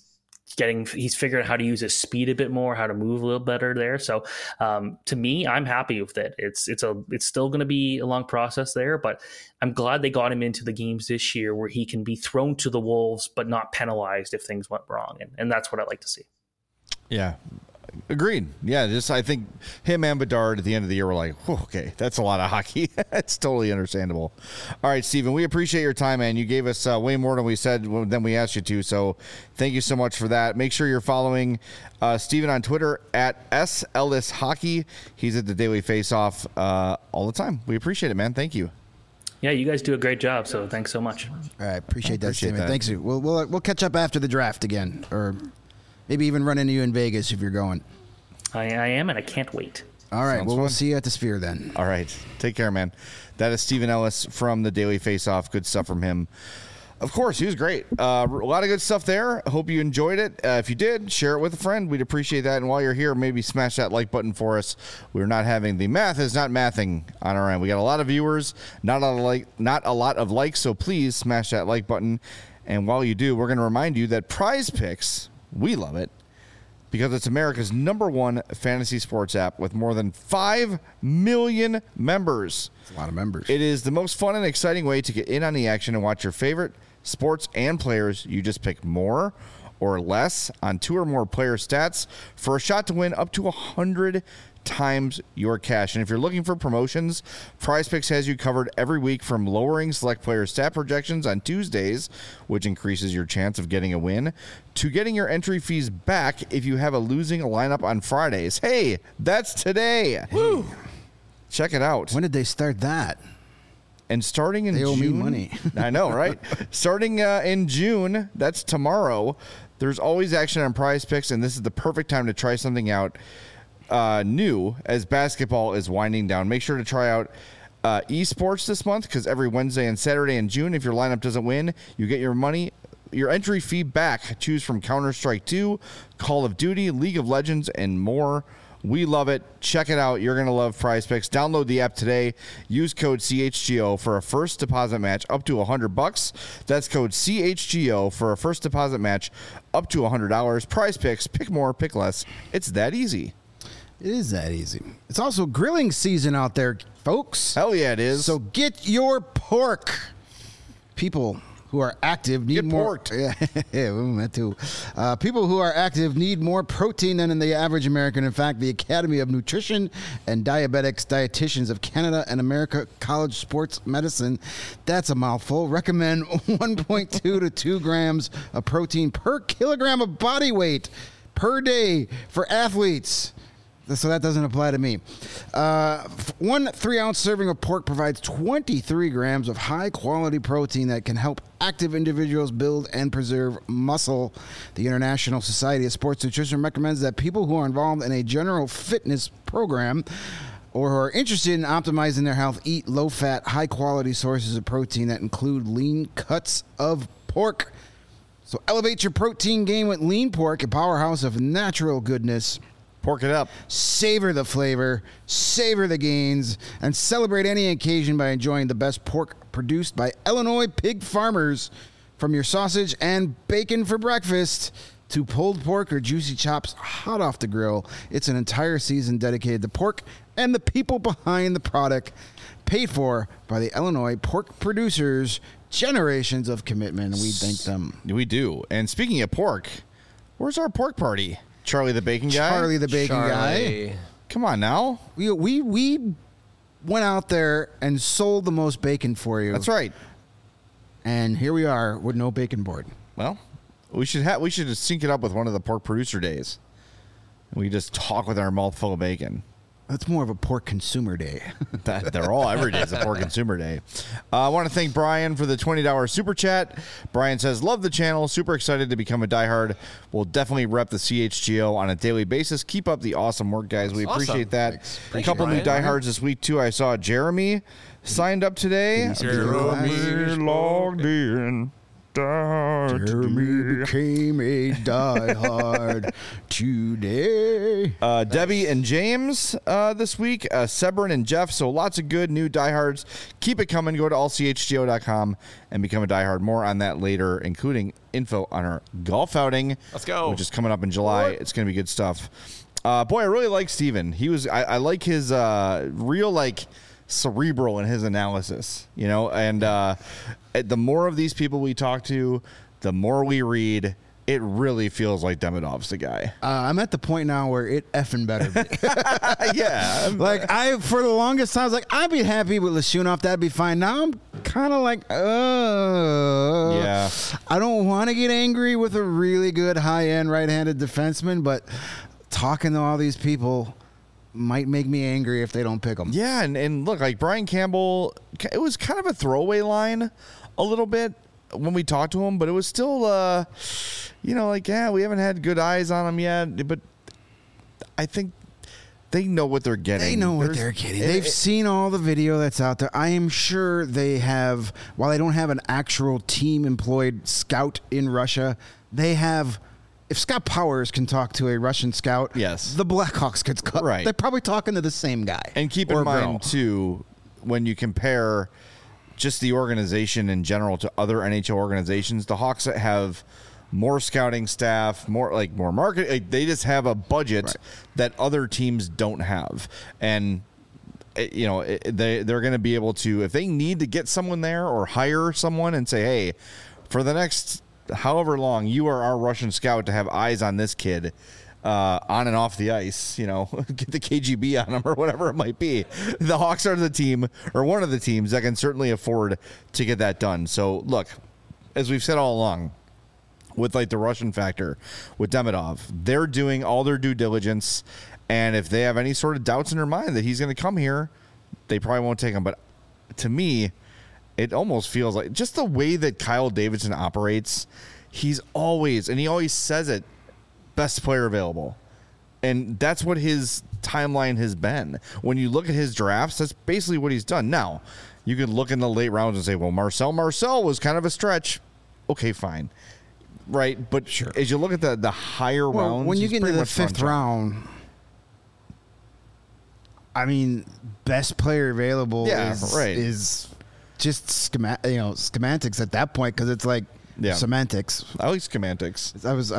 D: figured out how to use his speed a bit more, how to move a little better there. So to me, I'm happy with it. It's still going to be a long process there, but I'm glad they got him into the games this year where he can be thrown to the wolves, but not penalized if things went wrong. And that's what I like to see. Yeah.
A: Agreed. Yeah, I think him and Bedard at the end of the year were like, okay, that's a lot of hockey. It's totally understandable. All right, Steven, we appreciate your time, man. You gave us way more than we asked you to, so thank you so much for that. Make sure you're following Steven on Twitter at @SEllisHockey. He's at the Daily Faceoff all the time. We appreciate it, man. Thank you.
D: Yeah, you guys do a great job, so thanks so much.
B: All right, appreciate that, Steven. Thanks. We'll catch up after the draft again, or maybe even run into you in Vegas if you're going.
D: I am, and I can't wait.
B: All right. We'll see you at the Sphere then.
A: All right. Take care, man. That is Steven Ellis from the Daily Faceoff. Good stuff from him. Of course, he was great. A lot of good stuff there. Hope you enjoyed it. If you did, share it with a friend. We'd appreciate that. And while you're here, maybe smash that like button for us. We're not having the math is not mathing on our end. We got a lot of viewers, not a lot of likes. So please smash that like button. And while you do, we're going to remind you that Prize Picks, we love it, because it's America's #1 fantasy sports app with more than 5 million members.
B: That's a lot of members.
A: It is the most fun and exciting way to get in on the action and watch your favorite sports and players. You just pick more or less on 2 or more player stats for a shot to win up to 100 times your cash. And if you're looking for promotions, Prize Picks has you covered every week, from lowering select player stat projections on Tuesdays, which increases your chance of getting a win, to getting your entry fees back if you have a losing lineup on Fridays. Hey, that's today. Woo! Check it out.
B: When did they start that?
A: And starting in
B: June. They owe me money.
A: I know, right? Starting in June, that's tomorrow, there's always action on Prize Picks, and this is the perfect time to try something out new as basketball is winding down. Make sure to try out esports this month, because every Wednesday and Saturday in June, if your lineup doesn't win, you get your entry fee back. Choose from Counter-Strike 2, Call of Duty, League of Legends, and more. We love it. Check it out. You're going to love Prize Picks. Download the app today. Use code CHGO for a first deposit match up to $100. That's code CHGO for a first deposit match up to $100. Prize Picks. Pick more, pick less. It's that easy.
B: It is that easy. It's also grilling season out there, folks.
A: Hell yeah, it is.
B: So get your pork. People who are active need
A: Get
B: more.
A: porked.
B: Yeah, that too. People who are active need more protein than the average American. In fact, the Academy of Nutrition and Dietitians of Canada and America College Sports Medicine, that's a mouthful, recommend 1.2 to 2 grams of protein per kilogram of body weight per day for athletes. So that doesn't apply to me. 1 3-ounce serving of pork provides 23 grams of high-quality protein that can help active individuals build and preserve muscle. The International Society of Sports Nutrition recommends that people who are involved in a general fitness program or who are interested in optimizing their health eat low-fat, high-quality sources of protein that include lean cuts of pork. So elevate your protein game with lean pork, a powerhouse of natural goodness.
A: Pork it up.
B: Savor the flavor, savor the gains, and celebrate any occasion by enjoying the best pork produced by Illinois pig farmers. From your sausage and bacon for breakfast to pulled pork or juicy chops hot off the grill, it's an entire season dedicated to pork and the people behind the product, paid for by the Illinois pork producers. Generations of commitment, and we thank them.
A: We do. And speaking of pork, where's our pork party? Charlie the Bacon Guy?
B: Charlie the Bacon Guy.
A: Come on now.
B: We went out there and sold the most bacon for you.
A: That's right.
B: And here we are with no bacon board.
A: Well, we should just sync it up with one of the pork producer days. We just talk with our mouth full of bacon.
B: That's more of a pork consumer day.
A: They're all every day is a pork consumer day. I want to thank Brian for the $20 super chat. Brian says, love the channel. Super excited to become a diehard. We'll definitely rep the CHGO on a daily basis. Keep up the awesome work, guys. We appreciate that. A couple new diehards this week, too. I saw Jeremy signed up today.
B: Jeremy
A: logged in.
B: Jeremy became a diehard today.
A: Debbie and James this week. Sebern and Jeff. So lots of good new diehards. Keep it coming. Go to allchgo.com and become a diehard. More on that later, including info on our golf outing.
C: Let's go.
A: Which is coming up in July. It's going to be good stuff. Boy, I really like Steven. I like his real cerebral in his analysis, and the more of these people we talk to, the more we read, it really feels like Demidov's the guy.
B: I'm at the point now where it effing better be.
A: Yeah.
B: For the longest time, I was like, I'd be happy with Lashunov. That'd be fine. Now I'm kind of like,
A: yeah.
B: I don't want to get angry with a really good high-end right-handed defenseman, but talking to all these people might make me angry if they don't pick them.
A: Yeah, and look, like Brian Campbell, it was kind of a throwaway line a little bit when we talked to him, but it was still, we haven't had good eyes on him yet, but I think they know what they're getting.
B: They know what they're getting. They've seen all the video that's out there. I am sure they have, while they don't have an actual team-employed scout in Russia, they have... If Scott Powers can talk to a Russian scout,
A: yes,
B: the Blackhawks could.
A: Right.
B: They're probably talking to the same guy.
A: And keep in mind, too, when you compare just the organization in general to other NHL organizations, the Hawks have more scouting staff, more market. They just have a budget that other teams don't have. And, they're going to be able to, if they need to get someone there or hire someone and say, hey, for the next however long, you are our Russian scout to have eyes on this kid on and off the ice, get the KGB on him or whatever it might be. The Hawks are the team or one of the teams that can certainly afford to get that done. So look, as we've said all along with the Russian factor with Demidov, they're doing all their due diligence. And if they have any sort of doubts in their mind that he's going to come here, they probably won't take him. But to me, it almost feels like just the way that Kyle Davidson operates, he always says it, best player available. And that's what his timeline has been. When you look at his drafts, that's basically what he's done. Now, you could look in the late rounds and say, well, Marcel was kind of a stretch. Okay, fine. Right? But sure, as you look at the higher rounds,
B: when you get into the fifth round, I mean, best player available is just semantics at that point, because it's like semantics.
A: I like semantics.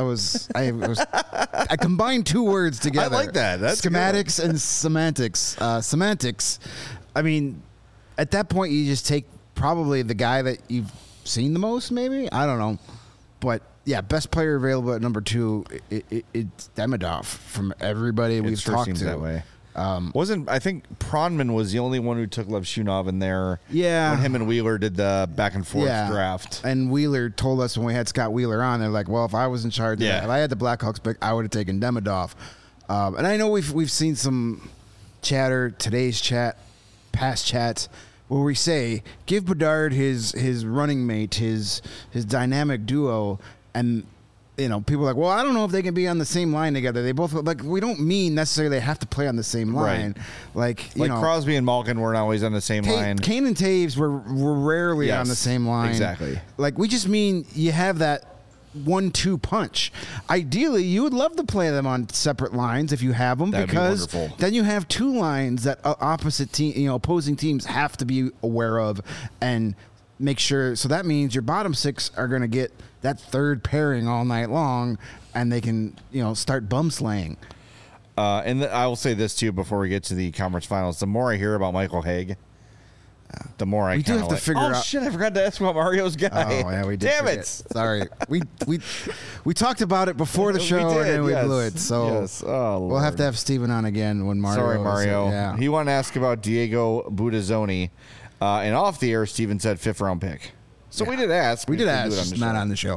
B: I combined two words together.
A: I like that. That's
B: schematics and semantics. Semantics. I mean, at that point, you just take probably the guy that you've seen the most, maybe? I don't know. But, yeah, best player available at number 2, it's Demidov from everybody we've talked
A: seems
B: to.
A: That way. I think Pronman was the only one who took Levshunov in there.
B: Yeah.
A: When him and Wheeler did the back and forth draft.
B: And Wheeler told us when we had Scott Wheeler on, they're like, well, if I was in charge of that, if I had the Blackhawks pick, I would have taken Demidov. And I know we've seen some chatter, today's chat, past chats, where we say, give Bedard his running mate, his dynamic duo, and people are like, well, I don't know if they can be on the same line together. They both we don't mean necessarily they have to play on the same line.
A: Right. Like Crosby and Malkin weren't always on the same line.
B: Kane and Taves were rarely on the same line.
A: Exactly.
B: Like we just mean you have that 1-2 punch. Ideally, you would love to play them on separate lines if you have them, because then you have two lines that opposing teams have to be aware of and make sure. So that means your bottom 6 are going to get that third pairing all night long, and they can start bum slaying.
A: And I will say this too before we get to the conference finals: the more I hear about Michael Haig, the more I
B: do have to figure out.
A: Oh shit! I forgot to ask about Mario's guy.
B: Oh yeah, we did.
A: Damn it!
B: Sorry, we talked about it before the show and then we blew it. So we'll have to have Steven on again when Mario.
A: Sorry, Mario. He wanted to ask about Diego Budazzoni, and off the air, Steven said 5th round pick. So we did ask.
B: We did ask. Just not on the show.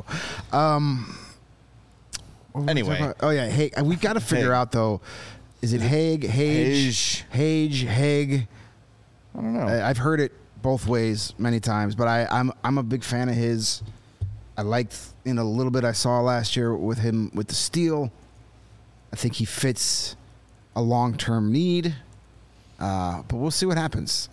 A: Anyway.
B: Oh yeah, hey, we got to figure out though. Is it Haig? Hage? Haig?
A: I don't know.
B: I've heard it both ways many times, but I'm a big fan of his. I liked a little bit I saw last year with him with the Steel. I think he fits a long-term need, but we'll see what happens.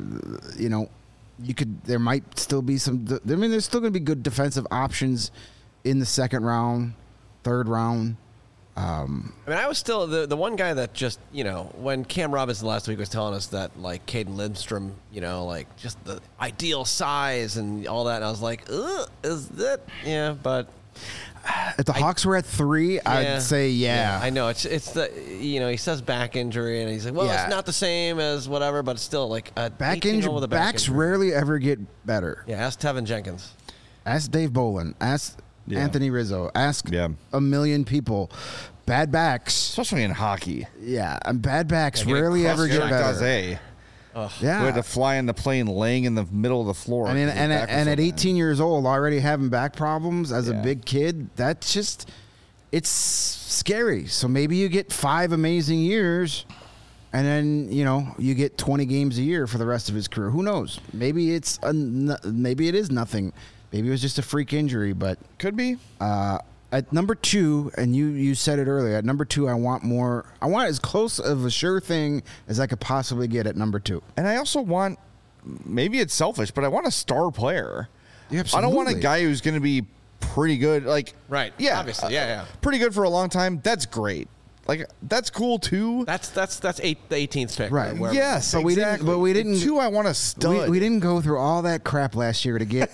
B: There might still be some. I mean, there's still going to be good defensive options in the 2nd round, 3rd round.
C: I mean, I was still the one guy that just when Cam Robinson last week was telling us that like Caden Lindstrom, like just the ideal size and all that, and I was like, is that but.
B: If the Hawks were at 3, I'd say yeah.
C: I know it's the he says back injury and he's like, well, it's not the same as whatever, but it's still like a
B: back injury. Backs rarely ever get better.
C: Yeah, ask Tevin Jenkins,
B: ask Dave Bolin, ask Anthony Rizzo, ask a million people. Bad backs,
A: especially in hockey.
B: Yeah, and bad backs rarely ever get better.
A: Yeah, we had to fly in the plane laying in the middle of the floor.
B: I mean, and at 18 years old, already having back problems as a big kid, that's just, it's scary. So maybe you get 5 amazing years, and then you get 20 games a year for the rest of his career. Who knows? Maybe it is nothing. Maybe it was just a freak injury, but
A: could be.
B: At number 2, and you said it earlier, at number 2, I want as close of a sure thing as I could possibly get at number 2.
A: And I also want, maybe it's selfish, but I want a star player.
B: Yeah, absolutely.
A: I don't want a guy who's going to be pretty good. Like,
C: right.
A: Yeah.
C: Obviously. Yeah.
A: Pretty good for a long time. That's great. Like, that's cool too.
C: That's the 18th pick.
B: Right.
A: Yes,
B: but
A: exactly.
B: we didn't.
A: 2, I want a stud.
B: We didn't go through all that crap last year to get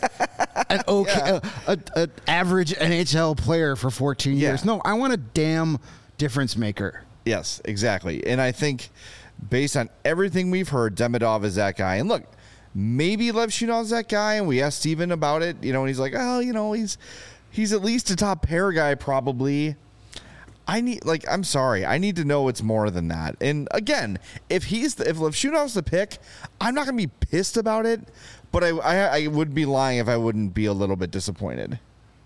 B: an average NHL player for 14 years. No, I want a damn difference maker.
A: Yes, exactly. And I think based on everything we've heard, Demidov is that guy. And look, maybe Levshunov's that guy, and we asked Steven about it, and he's like, he's at least a top pair guy probably. I'm sorry. I need to know it's more than that. And again, if Levshunov's the pick, I'm not going to be pissed about it, but I would be lying if I wouldn't be a little bit disappointed.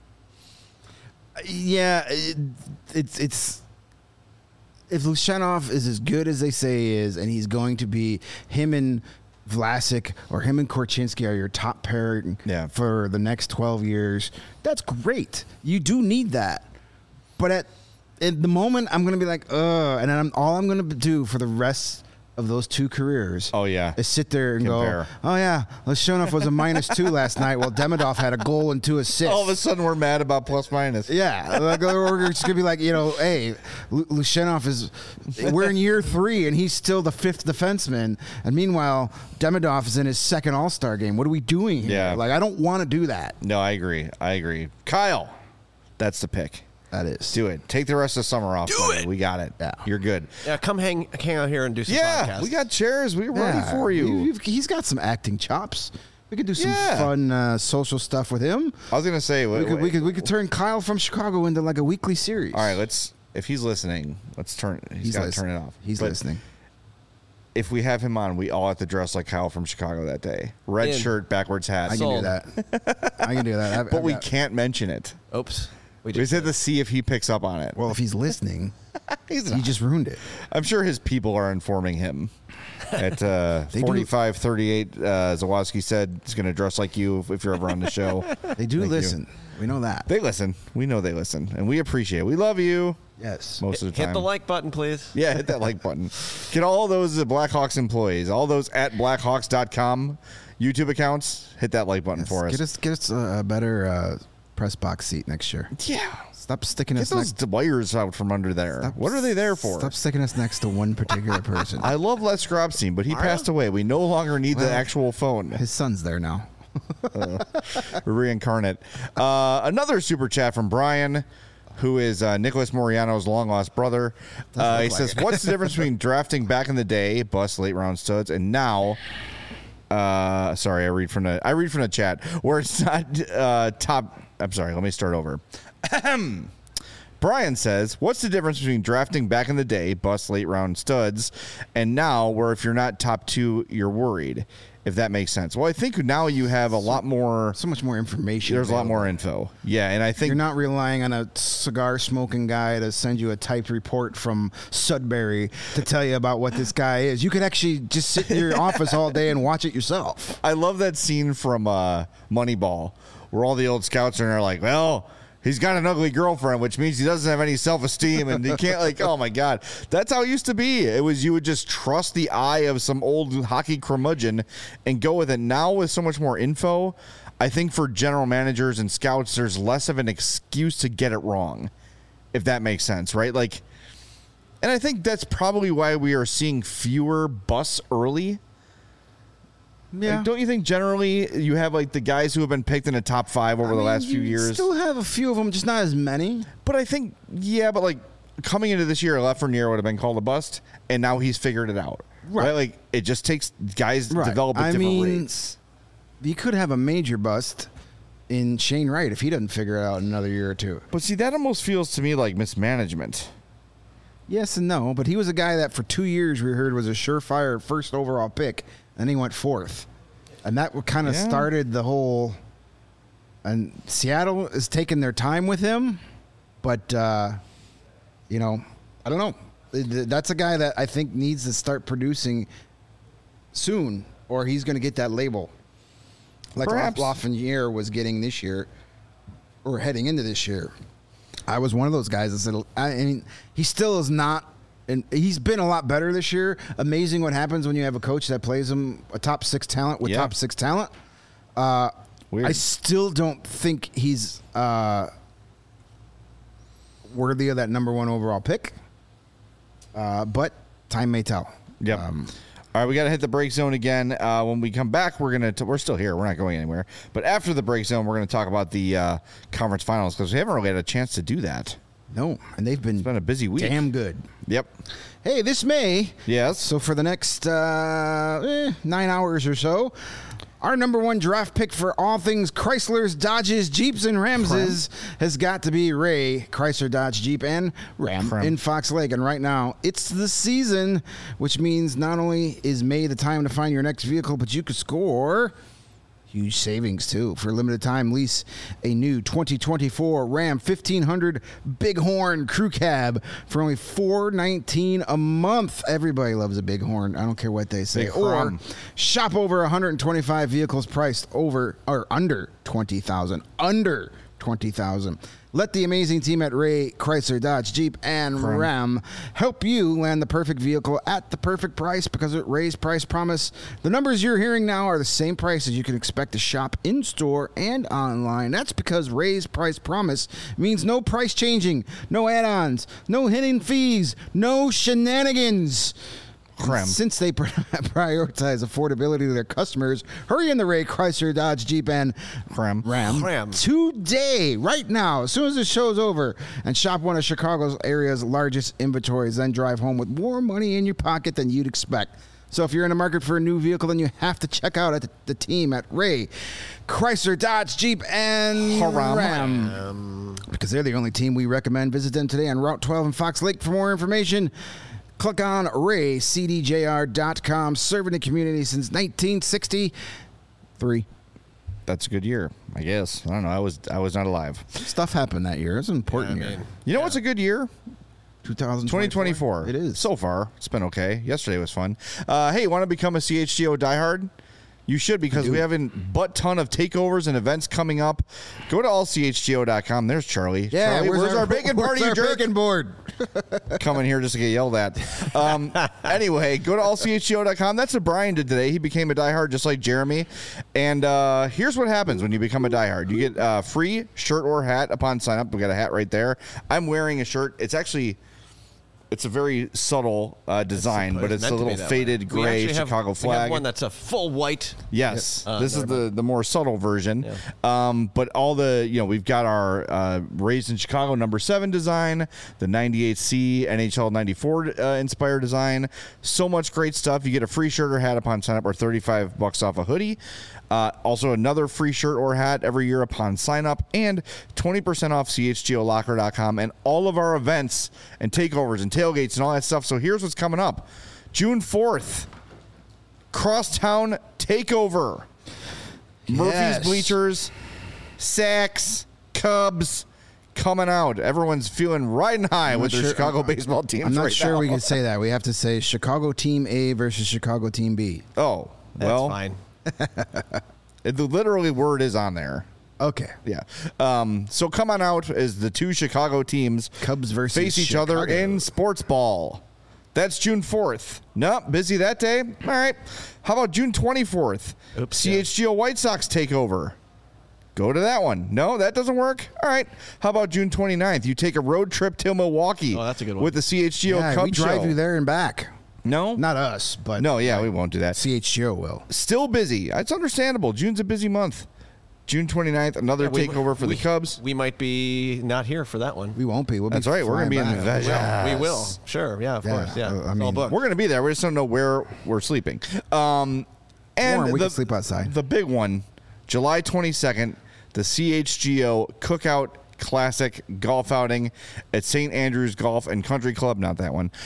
B: Yeah, it's if Levshunov is as good as they say he is, and he's going to be, him and Vlasic or him and Korchinski are your top pairing for the next 12 years, that's great. You do need that. But at the moment, I'm going to be like, and then all I'm going to do for the rest of those two careers.
A: Oh, yeah.
B: Is sit there and
A: Compare.
B: go, oh, yeah, Leshonov was a -2 last night while Demidov had a goal and 2 assists.
A: All of a sudden, we're mad about plus minus.
B: Yeah, like, we're just gonna be like, hey, Leshonov we're in year 3 and he's still the 5th defenseman, and meanwhile Demidov is in his 2nd All-Star game. What are we doing here?
A: Yeah.
B: Like, I don't want to do that.
A: No, I agree. Kyle, that's the pick.
B: That is.
A: Do it. Take the rest of summer off. Buddy. We got it.
B: Yeah.
A: You're good.
C: Yeah, come hang out here and do some podcasts.
A: We got chairs. We're ready for you.
B: He's got some acting chops. We could do some
A: Yeah.
B: fun social stuff with him.
A: I was gonna say
B: We could turn Kyle from Chicago into like a weekly series.
A: All right, if he's listening, let's turn. He's got to turn it off.
B: He's listening.
A: If we have him on, we all have to dress like Kyle from Chicago that day. Red shirt, backwards hat.
B: I can do that. I can do that.
A: But we can't mention it.
C: Oops.
A: We just have to see if he picks up on it.
B: Well, if he's listening,
A: He's
B: he
A: not.
B: just ruined it.
A: I'm sure his people are informing him. At 45:38, Zawoski said he's going to dress like you if you're ever on the show.
B: They do
A: Thank you.
B: listen. We know that.
A: They listen. We know they listen, and we appreciate it. We love you.
B: Yes.
A: Most of the time.
C: Hit the like button, please.
A: Yeah, hit that like button. Get all those Blackhawks employees, all those at Blackhawks.com YouTube accounts. Hit that like button for us.
B: Get us a better press box seat next year.
A: Yeah.
B: Stop sticking
A: Get
B: us
A: those wires out from under there. What are they there for?
B: Stop sticking us next to one particular person.
A: I love Les Grobstein, but he passed away. We no longer need the actual phone.
B: His son's there now.
A: Reincarnate. Another super chat from Brian, who is Nicholas Moriano's long lost brother. He says, "What's the difference between drafting back in the day, bust late round studs, and now?" Sorry, I read from the chat where it's not top. I'm sorry. Let me start over. Brian says, "What's the difference between drafting back in the day, bust late round studs, and now, where if you're not top 2, you're worried?" If that makes sense. Well, I think now you have a lot more.
B: So much more information.
A: There's
B: available.
A: a lot more info. Yeah, and I think
B: You're not relying on a cigar smoking guy to send you a typed report from Sudbury to tell you about what this guy is. You could actually just sit in your office all day and watch it yourself.
A: I love that scene from Moneyball where all the old scouts are like, well, he's got an ugly girlfriend, which means he doesn't have any self-esteem and he can't oh my God. That's how it used to be. It was, you would just trust the eye of some old hockey curmudgeon and go with it. Now with so much more info, I think for general managers and scouts, there's less of an excuse to get it wrong, if that makes sense, right? And I think that's probably why we are seeing fewer busts early.
B: Yeah.
A: Don't you think generally you have the guys who have been picked in the top 5 over the last few years?
B: Still have a few of them, just not as many.
A: But I think, coming into this year, Lafreniere would have been called a bust, and now he's figured it out. Right? It just takes guys develop at different rates.
B: You could have a major bust in Shane Wright if he doesn't figure it out in another year or two.
A: But see, that almost feels to me like mismanagement.
B: Yes and no, but he was a guy that for 2 years we heard was a surefire first overall pick, and he went 4th. And that kind of started the whole. And Seattle is taking their time with him, but I don't know. That's a guy that I think needs to start producing soon, or he's going to get that label, like Lafreniere was getting this year, or heading into this year. I was one of those guys that said, I mean, he still is not. And he's been a lot better this year. Amazing what happens when you have a coach that plays him a top 6 talent with top 6 talent.
A: Weird.
B: I still don't think he's worthy of that number 1 overall pick. But time may tell.
A: Yep. All right, we got to hit the break zone again. When we come back, we're still here. We're not going anywhere. But after the break zone, we're going to talk about the conference finals because we haven't really had a chance to do that.
B: No, and they've been
A: a busy week.
B: Damn good.
A: Yep.
B: Hey, this May.
A: Yes.
B: So for the next 9 hours or so, our number 1 draft pick for all things Chryslers, Dodges, Jeeps, and Ramses has got to be Ray Chrysler, Dodge, Jeep, and Ram in Fox Lake. And right now, it's the season, which means not only is May the time to find your next vehicle, but you could score huge savings, too. For a limited time, lease a new 2024 Ram 1500 Bighorn Crew Cab for only $419 a month. Everybody loves a Bighorn. I don't care what they say. Or shop over 125 vehicles priced over or under $20,000. Under $20,000. Let the amazing team at Ray Chrysler Dodge Jeep and Ram help you land the perfect vehicle at the perfect price, because at Ray's Price Promise, the numbers you're hearing now are the same prices you can expect to shop in store and online. That's because Ray's Price Promise means no price changing, no add-ons, no hidden fees, no shenanigans. Since they prioritize affordability to their customers, hurry in the Ray Chrysler Dodge Jeep and Ram today, right now, as soon as the show's over, and shop one of Chicago's area's largest inventories. Then drive home with more money in your pocket than you'd expect. So if you're in the market for a new vehicle, then you have to check out the team at Ray Chrysler Dodge Jeep and Ram, because they're the only team we recommend. Visit them today on Route 12 in Fox Lake for more information. Click on raycdjr.com, serving the community since 1963.
A: That's a good year, I guess. I don't know. I was not alive.
B: Stuff happened that year. It's an important year.
A: You know what's a good year?
B: 2024.
A: It is. So far, it's been okay. Yesterday was fun. Hey, want to become a CHGO diehard? You should, because we have a butt ton of takeovers and events coming up. Go to allchgo.com. There's Charlie.
B: Yeah,
A: Charlie, where's our bacon party, you jerk?
B: Bacon board.
A: Coming here just to get yelled at. Anyway, go to allchgo.com. That's what Brian did today. He became a diehard just like Jeremy. And here's what happens when you become a diehard. You get a free shirt or hat upon sign up. We got a hat right there. I'm wearing a shirt. It's a very subtle design, but it's a little faded gray Chicago flag.
C: We have one that's a full white.
A: Yes, this is the more subtle version. Yeah. But all we've got our Raised in Chicago #7 design, the 98C NHL 94 inspired design. So much great stuff. You get a free shirt or hat upon sign up, or $35 off a hoodie. Also, another free shirt or hat every year upon sign up, and 20% off CHGOLocker.com and all of our events and takeovers and tailgates and all that stuff. So here's what's coming up. June 4th, Crosstown Takeover. Yes. Murphy's Bleachers, Sacks, Cubs coming out. Everyone's feeling riding high with their Chicago baseball teams.
B: I'm not
A: right
B: sure
A: now.
B: We can say that. We have to say Chicago Team A versus Chicago Team B.
A: Oh, well.
C: That's fine.
A: The literally word is on there.
B: Okay.
A: Yeah. So come on out as the two Chicago teams
B: Cubs versus
A: face each other in sports ball. That's June 4th. Nope, busy that day. All right. How about June 24th? CHGO White Sox takeover. Go to that one. No, that doesn't work. All right. How about June 29th? You take a road trip to Milwaukee.
C: Oh, that's a good one.
A: With the CHGO Cubs
B: we drive
A: show.
B: you there and back.
A: No?
B: Not us, but...
A: No, yeah, we won't do that.
B: CHGO will.
A: Still busy. It's understandable. June's a busy month. June 29th, another takeover for the Cubs.
C: We might be not here for that one.
B: We won't be.
A: That's right. We're going to be in the vet.
C: We will. Sure. Yeah, of course. Yeah.
B: I mean,
C: we're
A: going to be there. We just don't know where we're sleeping. And
B: we can sleep outside.
A: The big one, July 22nd, the CHGO Cookout Classic golf outing at St. Andrews Golf and Country Club. Not that one.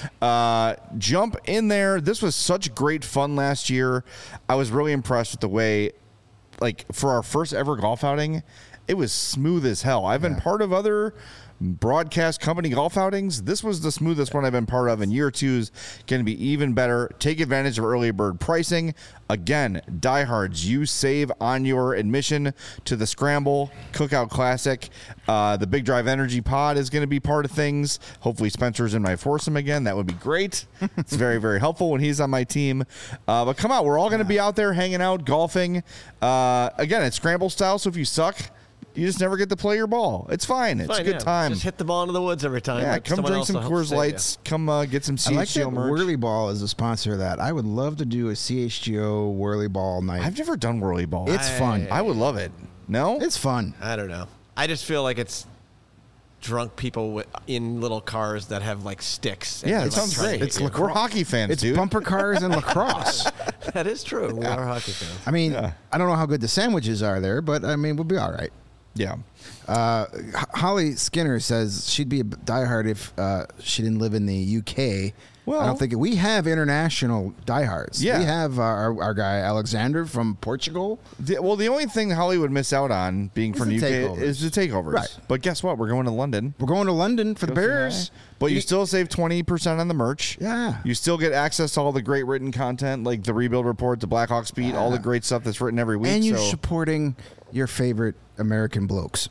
A: Jump in there. This was such great fun last year. I was really impressed with the way, for our first ever golf outing, it was smooth as hell. I've been part of other broadcast company golf outings. This was the smoothest one I've been part of, and year 2 is going to be even better. Take advantage of early bird pricing. Again, diehards, you save on your admission to the Scramble Cookout Classic. The Big Drive Energy Pod is going to be part of things. Hopefully Spencer's in my foursome again. That would be great. It's very, very helpful when he's on my team. But come out. We're all going to be out there hanging out, golfing. Again, it's Scramble style, so if you suck, you just never get to play your ball. It's fine. It's a good time.
C: Just hit the ball into the woods every time.
A: Yeah, come drink some Coors Lights. Come get some CHGO
B: I like that
A: merch.
B: Whirly Ball is a sponsor of that. I would love to do a CHGO Whirly Ball night.
A: I've never done Whirly Ball.
B: It's fun.
A: I would love it. No?
B: It's fun.
C: I don't know. I just feel like it's drunk people in little cars that have sticks.
A: Yeah, it sounds great. We're hockey fans,
B: it's
A: dude.
B: bumper cars and lacrosse.
C: That is true. We are hockey fans.
B: I mean, I don't know how good the sandwiches are there, but I mean, we'll be all right.
A: Yeah.
B: Holly Skinner says she'd be a diehard if she didn't live in the UK. Well, I don't think we have international diehards.
A: Yeah.
B: We have our guy Alexander from Portugal.
A: The only thing Holly would miss out on being from the UK is the takeovers.
B: Right.
A: But guess what? We're going to London.
B: We're going to London for the Bears.
A: But you still save 20% on the merch.
B: Yeah.
A: You still get access to all the great written content, like the Rebuild Report, the Blackhawks Beat, all the great stuff that's written every week.
B: And you're supporting your favorite American blokes.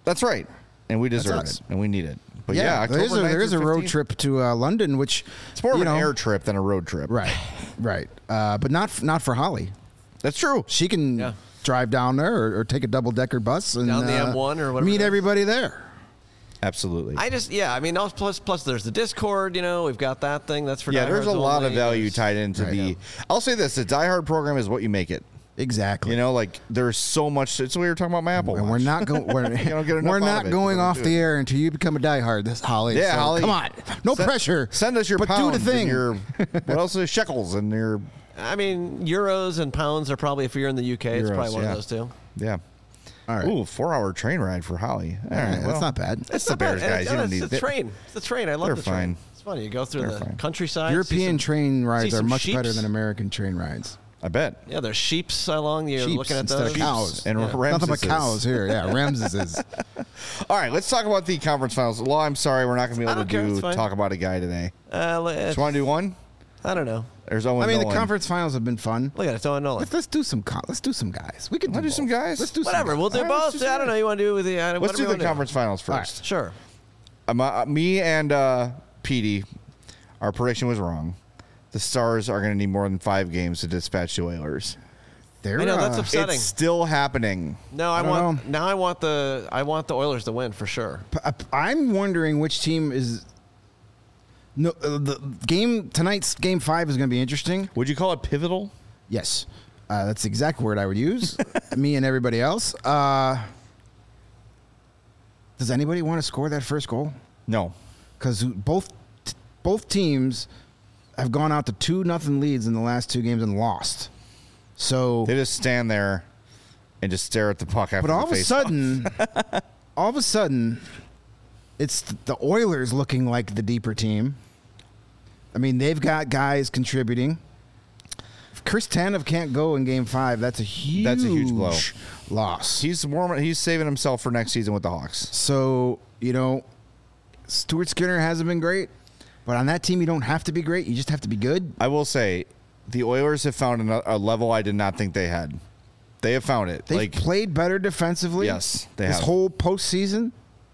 A: That's right. And we deserve
B: us.
A: it, and we need it. But yeah,
B: there is a road trip to London, which
A: it's more of an air trip than a road trip.
B: Right. But not for Holly.
A: That's true.
B: She can drive down there or take a double-decker bus and
C: down the M1 or whatever.
B: Meet everybody there.
A: Absolutely.
C: I mean, plus there's the Discord, we've got that thing. That's for
A: there's a lot of value tied into I'll say this, the Die Hard program is what you make it.
B: Exactly.
A: There's so much. It's what we were talking about my Apple Watch.
B: And we're not going. We're not going off the air until you become a diehard. This Holly.
A: Yeah, so Holly.
B: Come on, no pressure.
A: Send us your
B: but
A: pounds.
B: Do the thing.
A: And your what else is shekels and your.
C: I mean, euros and pounds are probably, if you're in the UK, it's probably one of those two.
A: Yeah.
B: All right.
A: Ooh, 4-hour train ride for Holly. All right,
B: that's not bad.
A: It's the Bears, guys. You don't need
C: the train. It's the train. I love the train.
A: Fine.
C: It's funny. You go through the countryside.
B: European train rides are much better than American train rides.
A: I bet.
C: Yeah, there's sheeps along. You're looking at
B: instead
C: those.
B: Of cows.
A: And
B: Nothing but cows here. Yeah, Ramses is.
A: All right, let's talk about the conference finals. Law, I'm sorry, we're not going to be able to talk about a guy today. Do you want to do one?
C: I don't know.
A: There's Owen
B: Nolan.
A: The
B: conference finals have been fun.
C: Look at it, it's Owen Nolan.
B: Let's do some guys. We can
A: do some guys.
B: Let's do
C: whatever. We'll do both. I don't know. You want to do with the?
A: Let's do the conference finals first.
C: Right, sure.
A: Me and Petey, our prediction was wrong. The Stars are going to need more than 5 games to dispatch the Oilers.
C: I know that's upsetting.
A: It's still happening.
C: No, I want the Oilers to win for sure.
B: I'm wondering which team is. No, tonight's game 5 is going to be interesting.
A: Would you call it pivotal?
B: Yes, that's the exact word I would use. Me and everybody else. Does anybody want to score that first goal?
A: No,
B: because both teams have gone out to 2-0 leads in the last 2 games and lost. So
A: they just stand there and just stare at the puck after. But all
B: of a sudden, it's the Oilers looking like the deeper team. I mean, they've got guys contributing. If Chris Tanev can't go in Game 5, that's a huge
A: blow.
B: Loss.
A: He's saving himself for next season with the Hawks.
B: So Stuart Skinner hasn't been great, but on that team, you don't have to be great. You just have to be good.
A: I will say, the Oilers have found a level I did not think they had. They have found it.
B: They've played better defensively.
A: Yes, they have.
B: This whole postseason.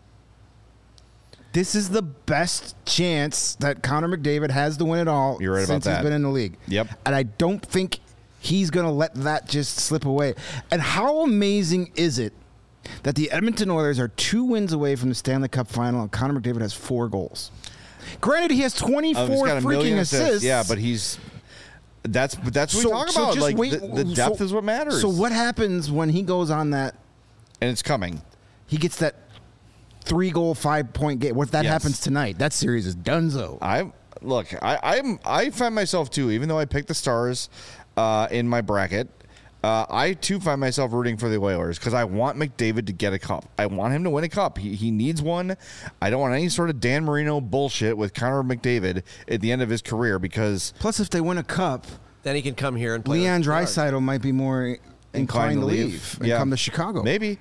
B: This is the best chance that Connor McDavid has to win it all.
A: You're right about that.
B: Since he's been in the league.
A: Yep.
B: And I don't think he's going to let that just slip away. And how amazing is it that the Edmonton Oilers are 2 wins away from the Stanley Cup final and Connor McDavid has 4 goals? Granted, he has 24 freaking assists.
A: Yeah, but that's what we talk about. The depth is what matters.
B: So what happens when he goes on that?
A: And it's coming.
B: He gets that 3-goal, 5-point game. What if that happens tonight? That series is donezo.
A: I find myself too, even though I picked the Stars in my bracket, I too find myself rooting for the Oilers because I want McDavid to get a cup. I want him to win a cup. He needs one. I don't want any sort of Dan Marino bullshit with Connor McDavid at the end of his career because...
B: Plus, if they win a cup...
C: Then he can come here and play.
B: Leon Draisaitl might be more inclined to leave and come to Chicago.
A: Maybe.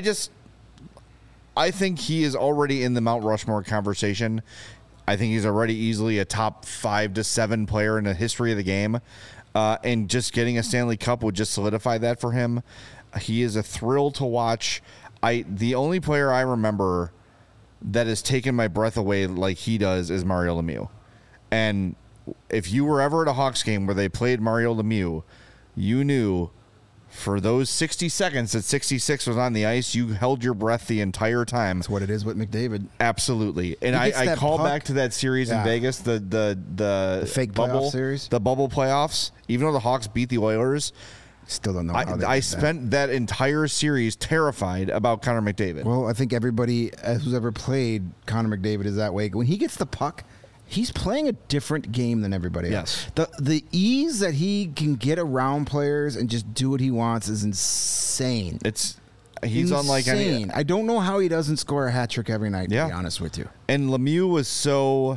A: I think he is already in the Mount Rushmore conversation. I think he's already easily a top 5 to 7 player in the history of the game. And just getting a Stanley Cup would just solidify that for him. He is a thrill to watch. The only player I remember that has taken my breath away like he does is Mario Lemieux. And if you were ever at a Hawks game where they played Mario Lemieux, you knew for those 60 seconds that 66 was on the ice, you held your breath the entire time.
B: That's what it is with McDavid.
A: Absolutely. And I call back to that series in Vegas, the
B: fake
A: bubble
B: series,
A: the bubble playoffs. Even though the Hawks beat the Oilers,
B: still don't know how they
A: I spent that entire series terrified about Connor McDavid.
B: Well, I think everybody who's ever played Connor McDavid is that way. When he gets the puck, he's playing a different game than everybody else. The ease that he can get around players and just do what he wants is insane. He's unlike any. I don't know how he doesn't score a hat trick every night, to be honest with you.
A: And Lemieux was so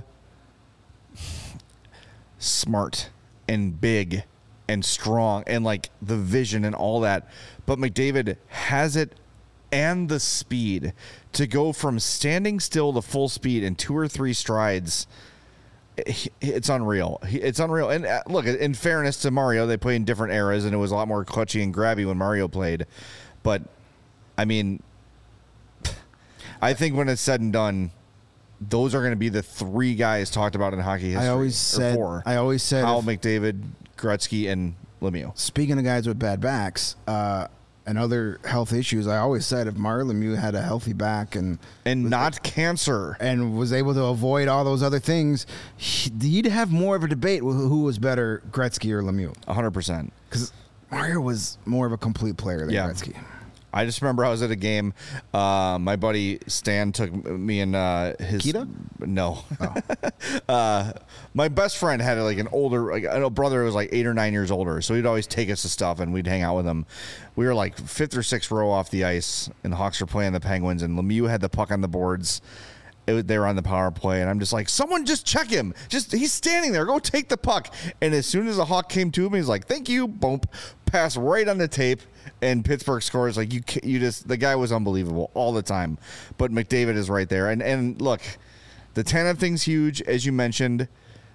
A: smart and big and strong and like the vision and all that. But McDavid has it and the speed to go from standing still to full speed in 2 or 3 strides. It's unreal. It's unreal. And look, in fairness to Mario, they played in different eras, and it was a lot more clutchy and grabby when Mario played. But, I mean, I think when it's said and done, those are going to be the three guys talked about in hockey history.
B: I always said
A: Howell, McDavid, Gretzky, and Lemieux.
B: Speaking of guys with bad backs and other health issues, I always said if Mario Lemieux had a healthy back and
A: not cancer
B: and was able to avoid all those other things, he'd have more of a debate with who was better, Gretzky or Lemieux.
A: 100%.
B: Because Mario was more of a complete player than Gretzky.
A: I just remember I was at a game. My buddy Stan took me and his
B: Kita?
A: No. Oh. My best friend had like an older, like a brother who was like 8 or 9 years older, so he'd always take us to stuff and we'd hang out with him. We were like 5th or 6th row off the ice, and the Hawks were playing the Penguins, and Lemieux had the puck on the boards. They were on the power play, and I'm just like, someone just check him. He's standing there. Go take the puck. And as soon as the Hawk came to him, he's like, thank you. Boom. Pass right on the tape, and Pittsburgh scores. Like, the guy was unbelievable all the time. But McDavid is right there. And look, the Tanev thing's huge, as you mentioned.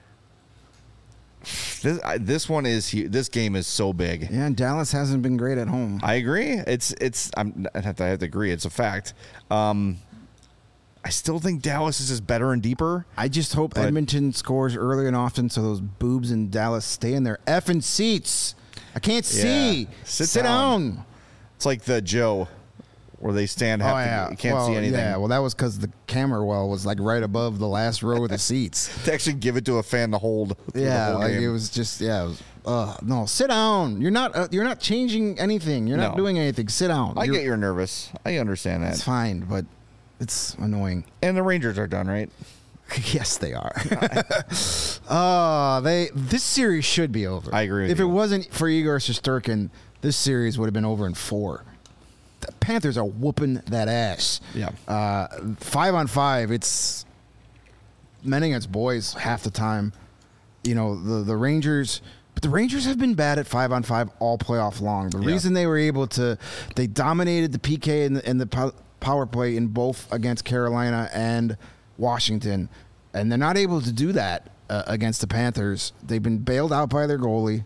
A: This one is huge. This game is so big.
B: Yeah, and Dallas hasn't been great at home.
A: I agree. I have to agree. It's a fact. I still think Dallas is just better and deeper.
B: I just hope Edmonton scores early and often so those boobs in Dallas stay in their effing seats. I can't see. Sit down.
A: It's like the Joe where they stand you can't see anything.
B: Yeah, well, that was because the camera was like right above the last row of the seats.
A: To actually give it to a fan to hold.
B: Yeah, like game. It was just no, sit down. You're not changing anything. You're not doing anything. Sit down.
A: I get you're nervous. I understand that.
B: It's fine, but it's annoying.
A: And the Rangers are done, right?
B: Yes, they are. This series should be over.
A: I agree with
B: you. If it wasn't for Igor Shesterkin, this series would have been over in 4. The Panthers are whooping that ass.
A: Yeah.
B: 5-on-5, it's men against boys half the time. You know, the Rangers... But the Rangers have been bad at 5-on-5 all playoff long. The reason they were able to... They dominated the PK and the power play in both against Carolina and Washington, and they're not able to do that against the Panthers. They've been bailed out by their goalie.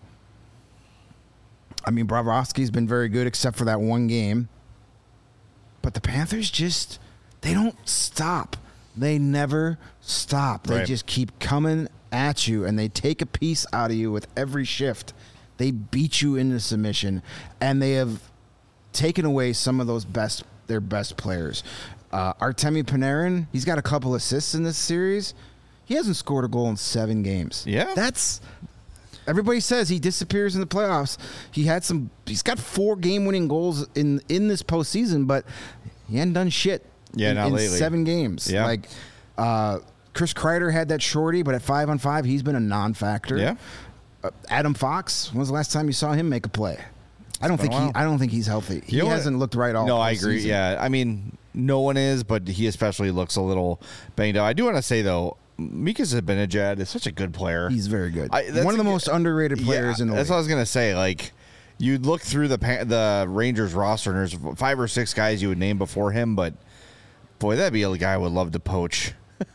B: I mean, Bobrovsky's been very good except for that one game. But the Panthers they don't stop. They never stop. They just keep coming at you, and they take a piece out of you with every shift. They beat you into submission, and they have taken away some of their best players. Artemi Panarin, he's got a couple assists in this series. He hasn't scored a goal in 7 games.
A: Yeah.
B: Everybody says he disappears in the playoffs. He's got 4 game-winning goals in this postseason, but he hadn't done shit in
A: lately.
B: 7 games.
A: Yeah.
B: Like, Chris Kreider had that shorty, but at 5-on-5, he's been a non-factor.
A: Yeah.
B: Adam Fox, when was the last time you saw him make a play? I don't think he's healthy. He hasn't looked right all.
A: No, I agree.
B: Season.
A: Yeah, I mean, no one is, but he especially looks a little banged up. I do want to say though, Mika Zibanejad is such a good player.
B: He's very good. One of the most underrated players in the league.
A: That's what I was gonna say. Like, you look through the Rangers roster, and there's 5 or 6 guys you would name before him, but boy, that'd be a guy I would love to poach.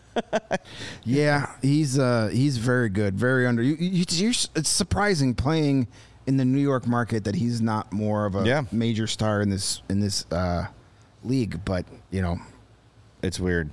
B: Yeah, he's very good, very under. It's surprising playing in the New York market that he's not more of a major star in this league, but you know,
A: it's weird.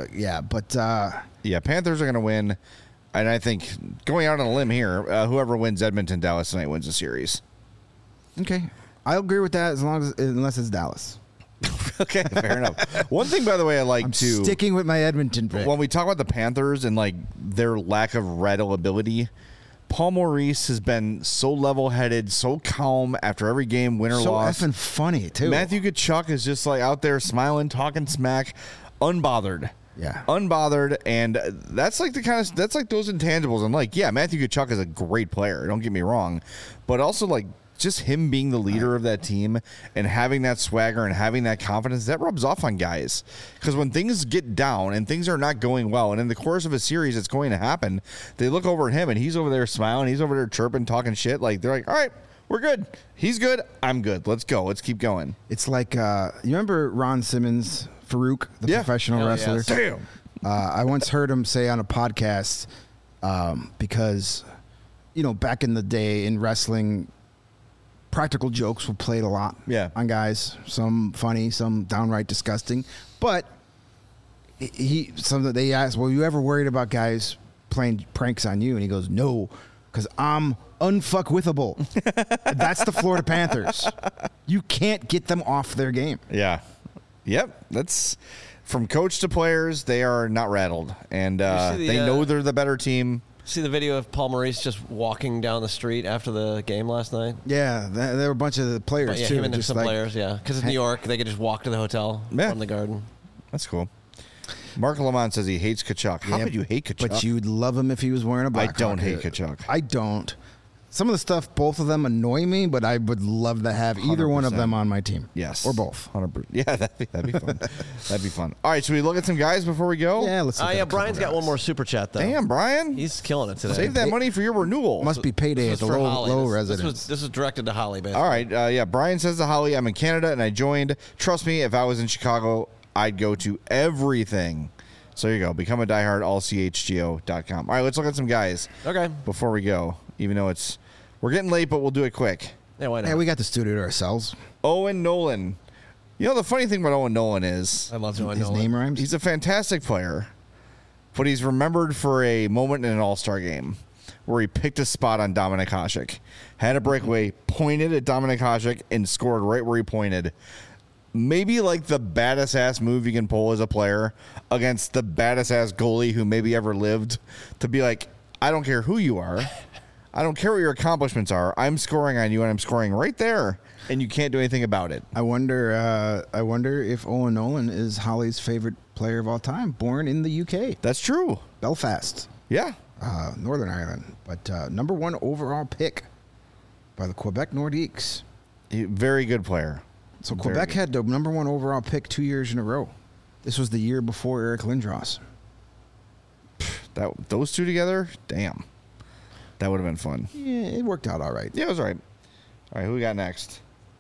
B: Panthers
A: are going to win, and I think going out on a limb here, whoever wins Edmonton Dallas tonight wins the series.
B: Okay, I'll agree with that unless it's Dallas.
A: Okay, fair enough. One thing, by the way, I'm
B: sticking with my Edmonton pick.
A: When we talk about the Panthers and like their lack of reliability, Paul Maurice has been so level-headed, so calm after every game, win or loss.
B: So effing funny too.
A: Matthew Tkachuk is just like out there smiling, talking smack, unbothered.
B: Yeah,
A: unbothered, and that's like that's like those intangibles. And like, yeah, Matthew Tkachuk is a great player. Don't get me wrong, but also like just him being the leader of that team and having that swagger and having that confidence, that rubs off on guys. Because when things get down and things are not going well, and in the course of a series it's going to happen, they look over at him and he's over there smiling, he's over there chirping, talking shit. Like, they're like, all right, we're good. He's good. I'm good. Let's go. Let's keep going.
B: It's like, you remember Ron Simmons, Farouk, the professional wrestler?
A: Yes. Damn.
B: I once heard him say on a podcast, because, you know, back in the day in wrestling, practical jokes were played a lot on guys. Some funny, some downright disgusting. But They asked, "Well, you ever worried about guys playing pranks on you?" And he goes, "No, because I'm unfuckwithable." That's the Florida Panthers. You can't get them off their game.
A: Yeah. Yep. That's from coach to players. They are not rattled, and they know they're the better team.
C: See the video of Paul Maurice just walking down the street after the game last night?
B: Yeah, there were a bunch of the players too.
C: Him and some players, yeah. Because in New York, they could just walk to the hotel from the Garden.
A: That's cool. Mark Lamont says he hates Kachuk. How could you hate Kachuk?
B: But you'd love him if he was wearing a Blackhawk.
A: I don't hate Kachuk.
B: I don't. Some of the stuff, both of them annoy me, but I would love to have either one of them on my team.
A: Yes.
B: Or both.
A: 100%. Yeah, that'd be fun. That'd be fun. All right, should we look at some guys before we go?
B: Yeah, let's look at a couple
C: Brian's got
B: guys.
C: one more super chat, though.
A: Damn, Brian.
C: He's killing it today.
A: Save that money for your renewal.
B: Must be payday at the low residence.
C: This was directed to Holly, basically.
A: All right. Brian says to Holly, I'm in Canada and I joined. Trust me, if I was in Chicago, I'd go to everything. So there you go. Become a diehard, allchgo.com. All right, let's look at some guys.
C: Okay.
A: Before we go, even though we're getting late, but we'll do it quick.
C: Yeah, why not?
B: Hey, we got the studio to ourselves.
A: Owen Nolan. You know, the funny thing about Owen Nolan is
C: I love Owen
B: His
C: Nolan.
B: name rhymes.
A: he's a fantastic player, but he's remembered for a moment in an All-Star game where he picked a spot on Dominik Hasek, had a breakaway, pointed at Dominik Hasek, and scored right where he pointed. Maybe like the baddest ass move you can pull as a player against the baddest ass goalie who maybe ever lived, to be like, I don't care who you are. I don't care what your accomplishments are. I'm scoring on you, and I'm scoring right there, and you can't do anything about it.
B: I wonder if Owen Nolan is Holly's favorite player of all time. Born in the UK,
A: That's true.
B: Belfast,
A: Yeah.
B: Northern Ireland, but #1 overall pick by the Quebec Nordiques.
A: Very good player.
B: So
A: Very
B: Quebec
A: good.
B: had the #1 overall pick 2 years in a row. This was the year before Eric Lindros.
A: Those two together, damn. That would have been fun.
B: Yeah, it worked out all right.
A: Yeah, it was all right. All right, who we got next?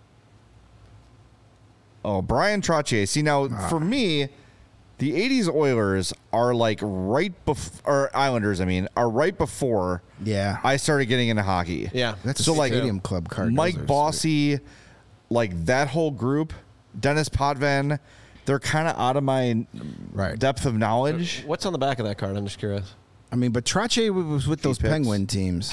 A: Oh, Brian Trottier. See, now, for me, the 80s Oilers are like right before, or Islanders, are right before
B: Yeah.
A: I started getting into hockey.
C: Yeah.
B: That's
A: So,
B: a
A: like,
B: stadium club card.
A: Mike
B: Those are
A: Bossy, like that whole group, Dennis Potvin, they're kind of out of my
B: Right.
A: depth of knowledge.
C: What's on the back of that card? I'm just curious.
B: I mean, but Trottier was with those
A: T-Pips.
B: Penguin teams.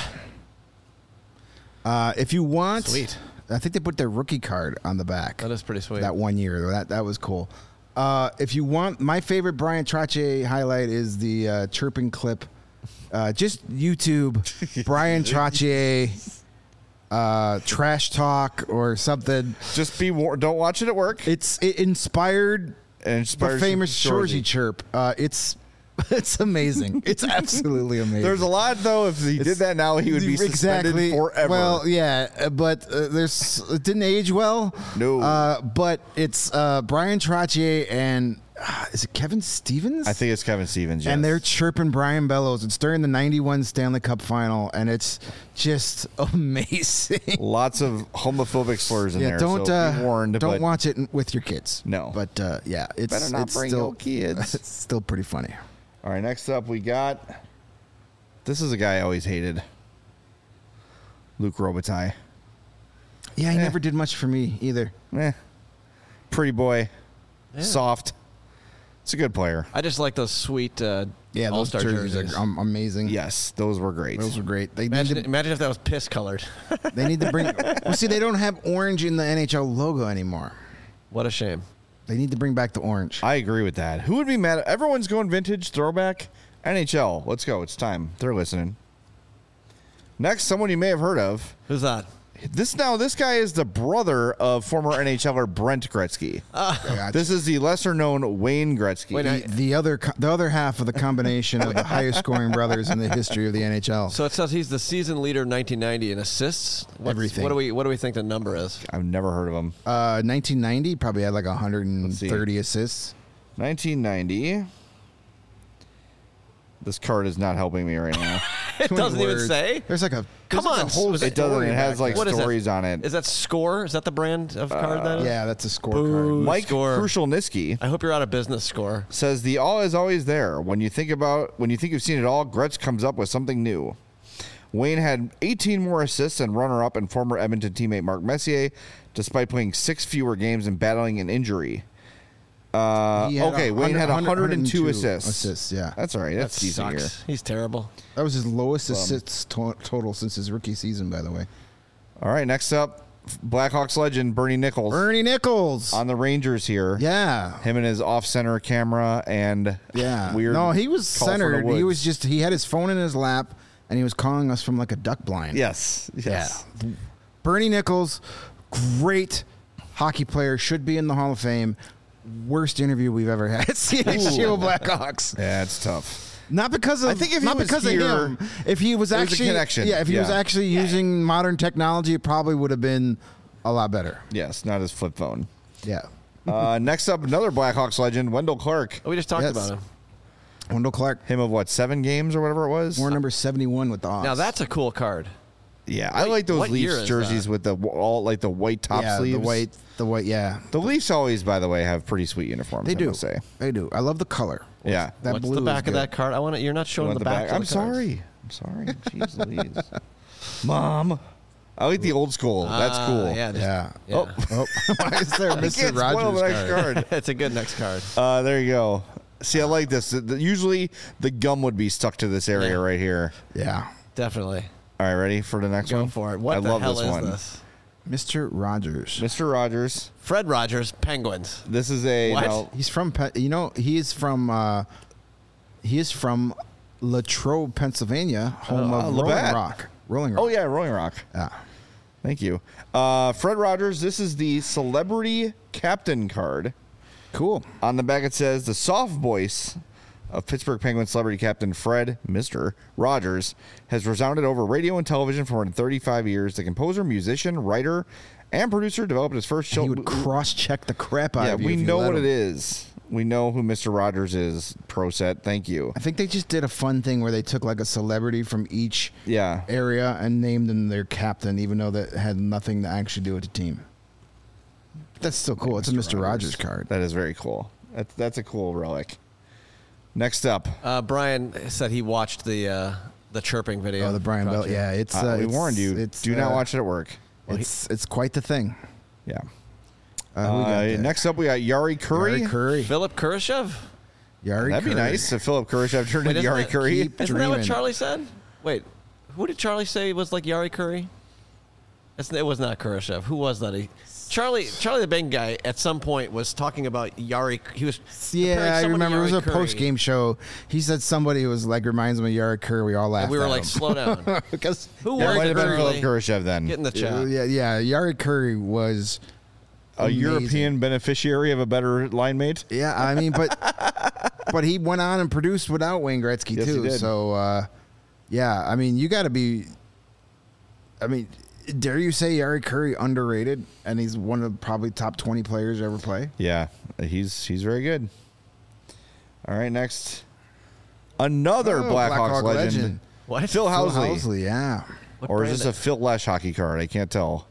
B: If you want,
C: Sweet.
B: I think they put their rookie card on the back.
C: That is pretty sweet.
B: That 1 year. That was cool. If you want, my favorite Brian Trottier highlight is the chirping clip. Just YouTube Brian Trottier trash talk or something.
A: Just be warned. Don't watch it at work.
B: It inspired
A: And
B: the
A: inspires
B: famous
A: Shorzy.
B: Shorzy chirp. It's amazing. It's absolutely amazing.
A: There's a lot, though. If he did that now, he would be suspended forever.
B: Well, yeah, but it didn't age well.
A: No.
B: But it's Brian Trottier and is it Kevin Stevens?
A: I think it's Kevin Stevens, yes.
B: And they're chirping Brian Bellows. It's during the '91 Stanley Cup Final, and it's just amazing.
A: Lots of homophobic slurs in there.
B: Don't
A: so be warned.
B: don't
A: but
B: watch it with your kids.
A: No.
B: but yeah, it's
A: Better not
B: it's
A: bring
B: still,
A: no kids.
B: It's still pretty funny.
A: All right, next up we got. This is a guy I always hated. Luke Robitaille.
B: Yeah, he never did much for me either.
A: Pretty boy. Soft. It's a good player.
C: I just like those sweet
B: Yeah, those
C: All-Star
B: jerseys are amazing.
A: Yes, those were great.
B: Those were great. They
C: Imagine,
B: need to,
C: imagine if that was piss colored.
B: they need to bring. Well, see, they don't have orange in the NHL logo anymore.
C: What a shame.
B: They need to bring back the orange.
A: I agree with that. Who would be mad? Everyone's going vintage, throwback, NHL. Let's go. It's time. They're listening. Next, someone you may have heard of.
C: Who's that?
A: This guy is the brother of former NHLer Brent Gretzky. This is the lesser-known Wayne Gretzky.
C: Wait,
B: the other half of the combination of the highest scoring brothers in the history of the NHL.
C: So it says he's the season leader in 1990 in assists.
B: Everything.
C: What do we think the number is?
A: I've never heard of him.
B: 1990 probably had like
A: Let's
B: 130
A: see.
B: assists.
A: 1990. This card is not helping me right now.
C: It doesn't even say.
B: There's like a
C: Come on.
B: whole
A: It doesn't. It has like
C: What is it?
A: stories on it.
C: Is that Score? Is that the brand of card that is?
B: Yeah, that's a
C: Boo.
B: scorecard.
A: Mike
C: Score.
A: Krushelnyski
C: I hope you're out of business, Score.
A: says the all is always there. When you think you've seen it all, Gretz comes up with something new. Wayne had 18 more assists and runner-up and former Edmonton teammate Mark Messier, despite playing 6 fewer games and battling an injury. Wayne had 102 assists.
B: Assists, yeah.
A: That's all right. That's
C: That
A: decent here.
C: sucks. He's terrible.
B: That was his lowest assists total since his rookie season, by the way.
A: All right, next up, Blackhawks legend Bernie Nichols
B: Bernie Nichols.
A: on the Rangers here.
B: Yeah.
A: Him and his off-center camera and weird.
B: No, he was
A: call from the
B: centered. He
A: woods.
B: was he had his phone in his lap, and he was calling us from like a duck blind.
A: Yes.
B: Yeah. Bernie Nichols, great hockey player, should be in the Hall of Fame. Worst interview we've ever had. CHGO Blackhawks.
A: Yeah, it's tough.
B: Not because of
A: I think if he
B: not
A: was
B: because
A: here,
B: of him. If he was
A: there was a
B: actually
A: connection.
B: yeah, if he was
A: Yeah.
B: actually using modern technology, it probably would have been a lot better.
A: Yes, not his flip phone.
B: Yeah.
A: Next up, another Blackhawks legend, Wendell Clark.
C: Oh, we just talked
B: Yes.
C: about him.
B: Wendell Clark,
A: Him of what, 7 games or whatever it was?
B: war number 71 with the Hawks.
C: Now that's a cool card.
A: Yeah, I like those
C: what year
A: Leafs
C: is
A: jerseys
C: that?
A: with the all like the white top
B: yeah,
A: sleeves.
B: the white, yeah.
A: The Leafs always, by the way, have pretty sweet uniforms.
B: They
A: I
B: do.
A: must say.
B: They do. I love the color.
A: Yeah.
B: That
C: What's
B: blue
C: the
B: is
C: back of
B: good.
C: that card? I want to. You're not showing
A: Want
C: the back. Of
A: I'm
C: the cards.
A: sorry. I'm sorry. Jeez Louise. Mom. I like the old school. That's cool.
C: Yeah.
B: Yeah.
C: Yeah.
B: Oh, why is there
A: I can't
B: Mr.
A: spoil
B: Rogers
A: the next card.
C: It's a good next card.
A: There you go. See, I like this. Usually the gum would be stuck to this area
C: Yeah.
A: right here.
B: Yeah.
C: Definitely.
A: All right, ready for the next
C: Go
A: one?
C: for it. What
A: I
C: the
A: love
C: hell
A: this
C: is
A: one.
C: this?
B: Mr. Rogers.
A: Mr. Rogers.
C: Fred Rogers, Penguins.
A: This is a
C: What?
A: now,
B: He's from he is from Latrobe, Pennsylvania, home of Rolling
A: Labatt.
B: Rock. Rolling Rock.
A: Oh yeah, Rolling Rock.
B: Yeah.
A: Thank you. Fred Rogers, this is the celebrity captain card.
B: Cool.
A: On the back it says the soft voice of Pittsburgh Penguins celebrity captain Fred, Mr. Rogers, has resounded over radio and television for more than 35 years. The composer, musician, writer, and producer developed his first show.
B: He would cross-check the crap out
A: Yeah,
B: of you.
A: we
B: if you
A: know
B: let
A: what
B: him.
A: it is. We know who Mr. Rogers is. Pro set. Thank you.
B: I think they just did a fun thing where they took like a celebrity from each
A: Yeah.
B: area and named them their captain, even though that had nothing to actually do with the team. That's still cool. It's a Mr. Rogers card.
A: That is very cool. That's a cool relic. Next up,
C: Brian said he watched the chirping video.
B: Oh, the Brian Bell.
C: Project.
B: Yeah, it's.
A: we
B: it's-
A: warned you.
B: It's,
A: Do not watch it at work.
B: It's quite the thing.
A: Yeah.
B: Who we got there?
A: Next up, we got Yari Curry.
B: Yari Curry.
C: Philip Kurashev?
B: Yari
A: That'd be
B: Curry.
A: nice if Philip Kurashev turned
C: Wait,
A: into
C: isn't
A: Yari
C: it-
A: Curry.
B: Keep
C: Isn't that what
B: dreaming.
C: Charlie said? Wait, who did Charlie say was like Yari Curry? It was not Kurashev. Who was that? Charlie the Bang guy at some point was talking about Yari. He was comparing
B: Yeah, I
C: someone to
B: remember. It was
C: Yari
B: a
C: Curry,
B: post-game show. He said somebody was like reminds him of Yari Curry. We all laughed.
C: and we were
B: at
C: like,
B: him.
C: slow down.
B: because
C: Who
A: That
C: was
A: might have been
C: Curly?
A: Philip Kurashev then.
C: Get in the chat.
B: yeah, Yari Curry was
A: A
B: amazing.
A: European beneficiary of a better line mate.
B: Yeah, I mean, but he went on and produced without Wayne Gretzky
A: Yes, he
B: too.
A: did.
B: So yeah, I mean, you got to be. I mean, dare you say Yari Curry underrated? And he's one of probably top 20 players to ever play.
A: Yeah, he's very good. All right, next. Another
B: Oh,
A: Blackhawks
B: Blackhawk
A: legend.
C: What?
A: Phil
B: Phil
A: Housley.
B: Housley, yeah.
C: What
A: Or is
C: brand
A: this a Phil Lesh hockey card? I can't tell.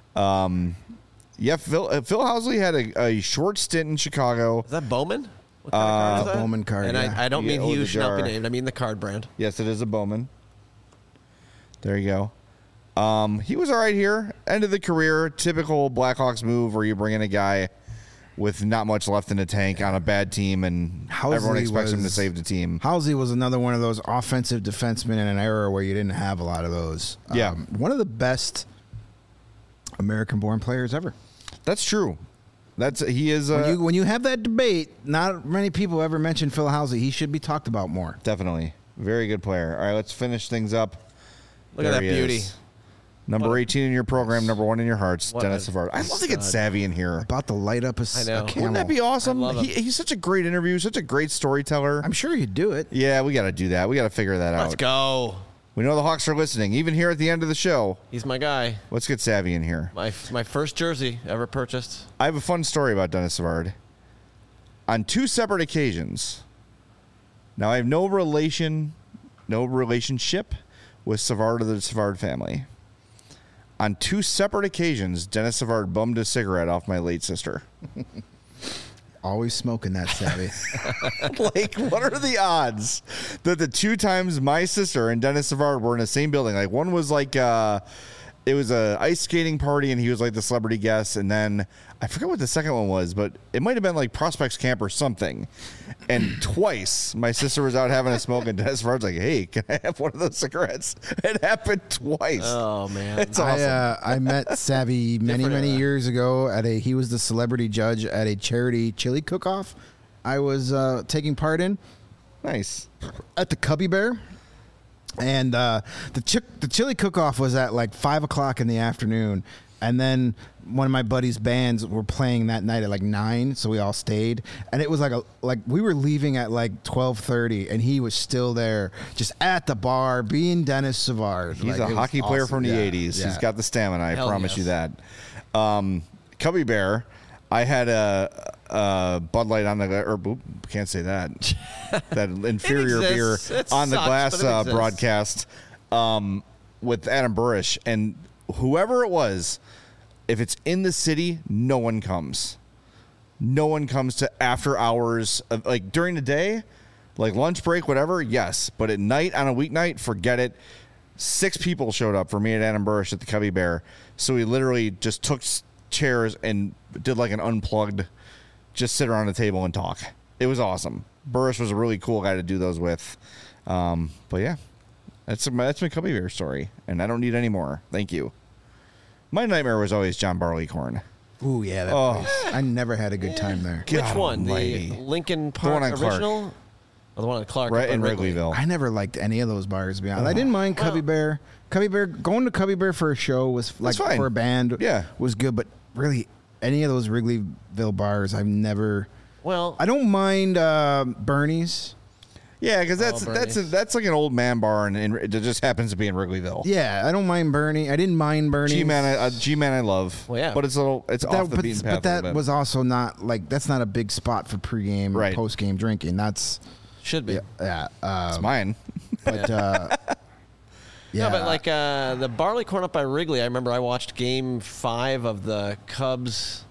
A: Yeah, Phil Housley had a short stint in Chicago.
C: Is that Bowman? What kind of card is that?
B: Bowman card,
C: And
B: yeah.
C: I don't mean
A: Yeah,
C: he
A: oh,
C: who
A: the
C: should not be
A: jar.
C: named. I mean the card brand.
A: Yes, it is a Bowman. There you go. He was all right here. End of the career. Typical Blackhawks move where you bring in a guy with not much left in the tank on a bad team, and everyone
B: Housley
A: expects him to
B: was-
A: save the team.
B: Housley was another one of those offensive defensemen in an era where you didn't have a lot of those.
A: Yeah.
B: One of the best American-born players ever.
A: That's true. He is
B: When you have that debate, not many people ever mention Phil Housley. He should be talked about more.
A: definitely very good player. All right, let's finish things up.
C: Look at
A: There
C: that
A: he
C: beauty.
A: is. Number 18 in your program, number 1 in your hearts,
C: What
A: Dennis
C: a
A: Savard. I'd love to get
C: stud.
A: Savvy in here.
B: About to light up a
C: I know.
B: camel.
A: Wouldn't that be awesome?
C: I love him.
A: He's such a great interview, such a great storyteller.
B: I'm sure you'd do it.
A: Yeah, we got to do that. We got to figure that
C: Let's
A: out.
C: go.
A: We know the Hawks are listening, even here at the end of the show.
C: He's my guy.
A: Let's get Savvy in here.
C: My first jersey ever purchased.
A: I have a fun story about Dennis Savard. On 2 separate occasions, now I have no relationship with Savard or the Savard family. On 2 separate occasions, Dennis Savard bummed a cigarette off my late sister.
B: Always smoking that, Savvy.
A: Like, what are the odds that the 2 times my sister and Dennis Savard were in the same building? Like, one was like it was a ice skating party, and he was like the celebrity guest. And then I forget what the second one was, but it might have been like Prospects Camp or something. And twice my sister was out having a smoke, and Dennis Farr's like, "Hey, can I have one of those cigarettes?" It happened twice.
C: Oh man,
A: It's awesome.
B: I met Savvy many
C: Different era.
B: years ago he was the celebrity judge at a charity chili cook-off I was taking part in
A: Nice.
B: at the Cubby Bear. And the chili cook-off was at like 5 o'clock in the afternoon. And then one of my buddy's bands were playing that night at like 9, so we all stayed. And it was like we were leaving at like 12:30, and he was still there, just at the bar, being Dennis Savard.
A: He's
B: Like,
A: a
B: it was
A: hockey player
B: awesome.
A: from the
B: Yeah,
A: 80s.
B: yeah.
A: He's got the stamina, I
C: Hell
A: promise
C: yes.
A: you that. Cubby Bear, I had a Bud Light on the can't say that. That inferior beer
C: exists. It
A: on the
C: sucks,
A: glass
C: but it exists.
A: broadcast with Adam Burrish. And whoever it was, if it's in the city, no one comes. No one comes to after hours, like during the day, like lunch break, whatever, yes. But at night, on a weeknight, forget it. 6 people showed up for me at Adam Burrish at the Cubby Bear. So we literally just took chairs and did like an unplugged, just sit around the table and talk. It was awesome. Burrish was a really cool guy to do those with. But yeah, that's my Cubby Bear story. And I don't need any more. Thank you. My nightmare was always John Barleycorn.
B: Ooh, yeah. That
A: Oh.
B: place. I never had a good time there.
C: Which
A: God
C: one?
A: almighty.
C: The Lincoln Park
A: one on Clark.
C: original? Or the one on Clark?
A: Right
C: or
A: in
C: Wrigley?
A: Wrigleyville.
B: I never liked any of those bars, to be honest. I didn't mind Cubby Bear. Cubby Bear, going to Cubby Bear for a show was like
A: fine.
B: for a band,
A: Yeah.
B: was good. But really, any of those Wrigleyville bars, I've never.
C: Well,
B: I don't mind Bernie's.
A: Yeah, because
C: Bernie's.
A: that's like an old man bar, and it just happens to be in Wrigleyville.
B: Yeah, I don't mind Bernie. I didn't mind Bernie's.
A: G-Man I love.
C: Well, yeah.
A: But it's off the beaten path
B: But that
A: a little bit.
B: was also not like that's not a big spot for pregame
A: Right.
B: or postgame drinking. That's
C: should be.
B: yeah.
A: It's mine.
B: But yeah,
C: No, but like the Barleycorn up by Wrigley, I remember I watched Game 5 of the Cubs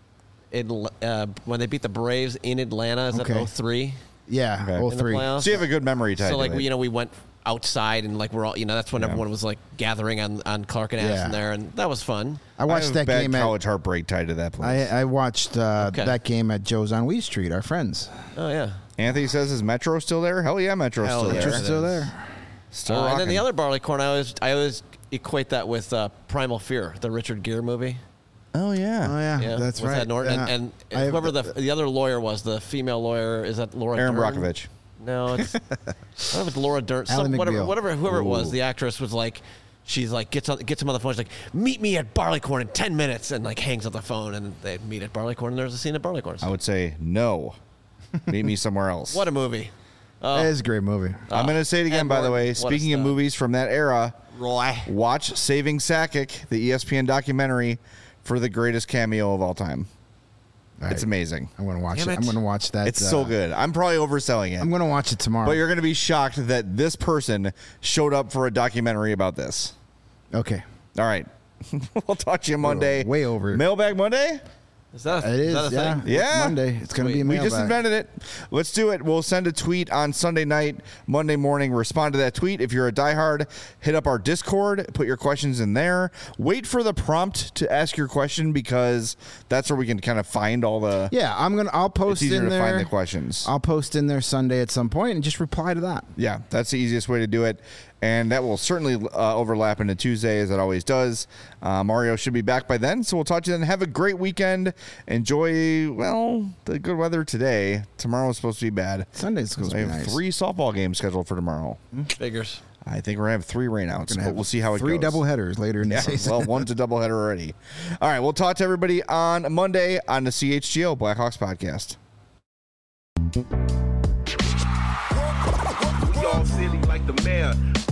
C: when they beat the Braves in Atlanta. Is
B: Okay.
C: that 03?
B: yeah,
A: Okay.
B: all
C: In the
B: three.
C: playoffs?
A: So you have a good memory tied
C: So
A: to
C: like
A: it.
C: we went outside and like we're all that's when
A: Yeah.
C: everyone was like gathering on Clark and Addison
B: Yeah.
C: there, and that was fun.
B: I
A: I
B: watched
A: have
B: that
A: bad
B: game
A: college heartbreak tied to that place.
B: I watched
C: Okay.
B: that game at Joe's on Weed Street. Our friends.
C: Oh yeah.
A: Anthony says, "Is Metro still there?" Hell yeah, Metro's
C: Hell
A: still
C: yeah.
A: there.
B: Metro's still there.
A: Still
C: And then
A: rocking.
C: the other Barleycorn, I always equate that with Primal Fear, the Richard Gere movie.
A: Oh yeah.
B: Oh yeah,
C: Yeah,
B: that's
C: with
B: right.
C: Ed Norton.
B: Yeah.
C: And
B: I-
C: whoever the other lawyer was, the female lawyer, is that Laura
A: Aaron
C: Dern?
A: Brockovich.
C: No, it's I don't know if it's Laura Dern.
B: Ally McBeal.
C: Whoever it was,
A: Ooh.
C: the actress was like, she's like gets him on the phone. She's like, meet me at Barleycorn in 10 minutes, and like hangs up the phone, and they meet at Barleycorn, and there's a scene at Barleycorn.
A: I would say no. Meet me somewhere else.
C: What a movie!
B: It is a great movie.
A: I'm going to say it again,
C: Ed
A: by the
C: Norton,
A: way.
C: what a
A: Speaking of
C: stud.
A: movies from that era,
C: Roy.
A: watch Saving Sakic, the ESPN documentary, for the greatest cameo of all time.
B: All
A: It's
B: right.
A: amazing.
B: I'm gonna watch
C: Damn
B: it.
C: it.
B: I'm gonna watch that.
A: It's so good. I'm probably overselling it.
B: I'm gonna watch it tomorrow.
A: But you're going to be shocked that this person showed up for a documentary about this.
B: okay.
A: All right. We'll talk to you Monday.
B: way over.
A: Mailbag Monday?
C: Is that
B: It is.
C: that a
B: Yeah.
C: thing?
A: Yeah.
B: Monday. It's gonna be a
A: We
B: mailbag.
A: just invented it. Let's do it. We'll send a tweet on Sunday night, Monday morning. Respond to that tweet. If you're a diehard, hit up our Discord. Put your questions in there. Wait for the prompt to ask your question because that's where we can kind of find all the.
B: Yeah, I'll post
A: It's easier
B: in
A: to
B: there.
A: find the questions.
B: I'll post in there Sunday at some point and just reply to that.
A: Yeah, that's the easiest way to do it. And that will certainly overlap into Tuesday, as it always does. Mario should be back by then, so we'll talk to you then. Have a great weekend. Enjoy, well, the good weather today. Tomorrow's supposed to be bad.
B: Sunday's supposed to
A: I
B: be
A: have
B: nice.
A: 3 softball games scheduled for tomorrow.
C: Figures.
A: I think we're going to have 3 rainouts, but we'll see how it
B: Three
A: goes.
B: double headers later in the
A: Yeah,
B: season.
A: well, one's a doubleheader already. All right, we'll talk to everybody on Monday on the CHGO Blackhawks podcast.
E: We all silly like the mayor.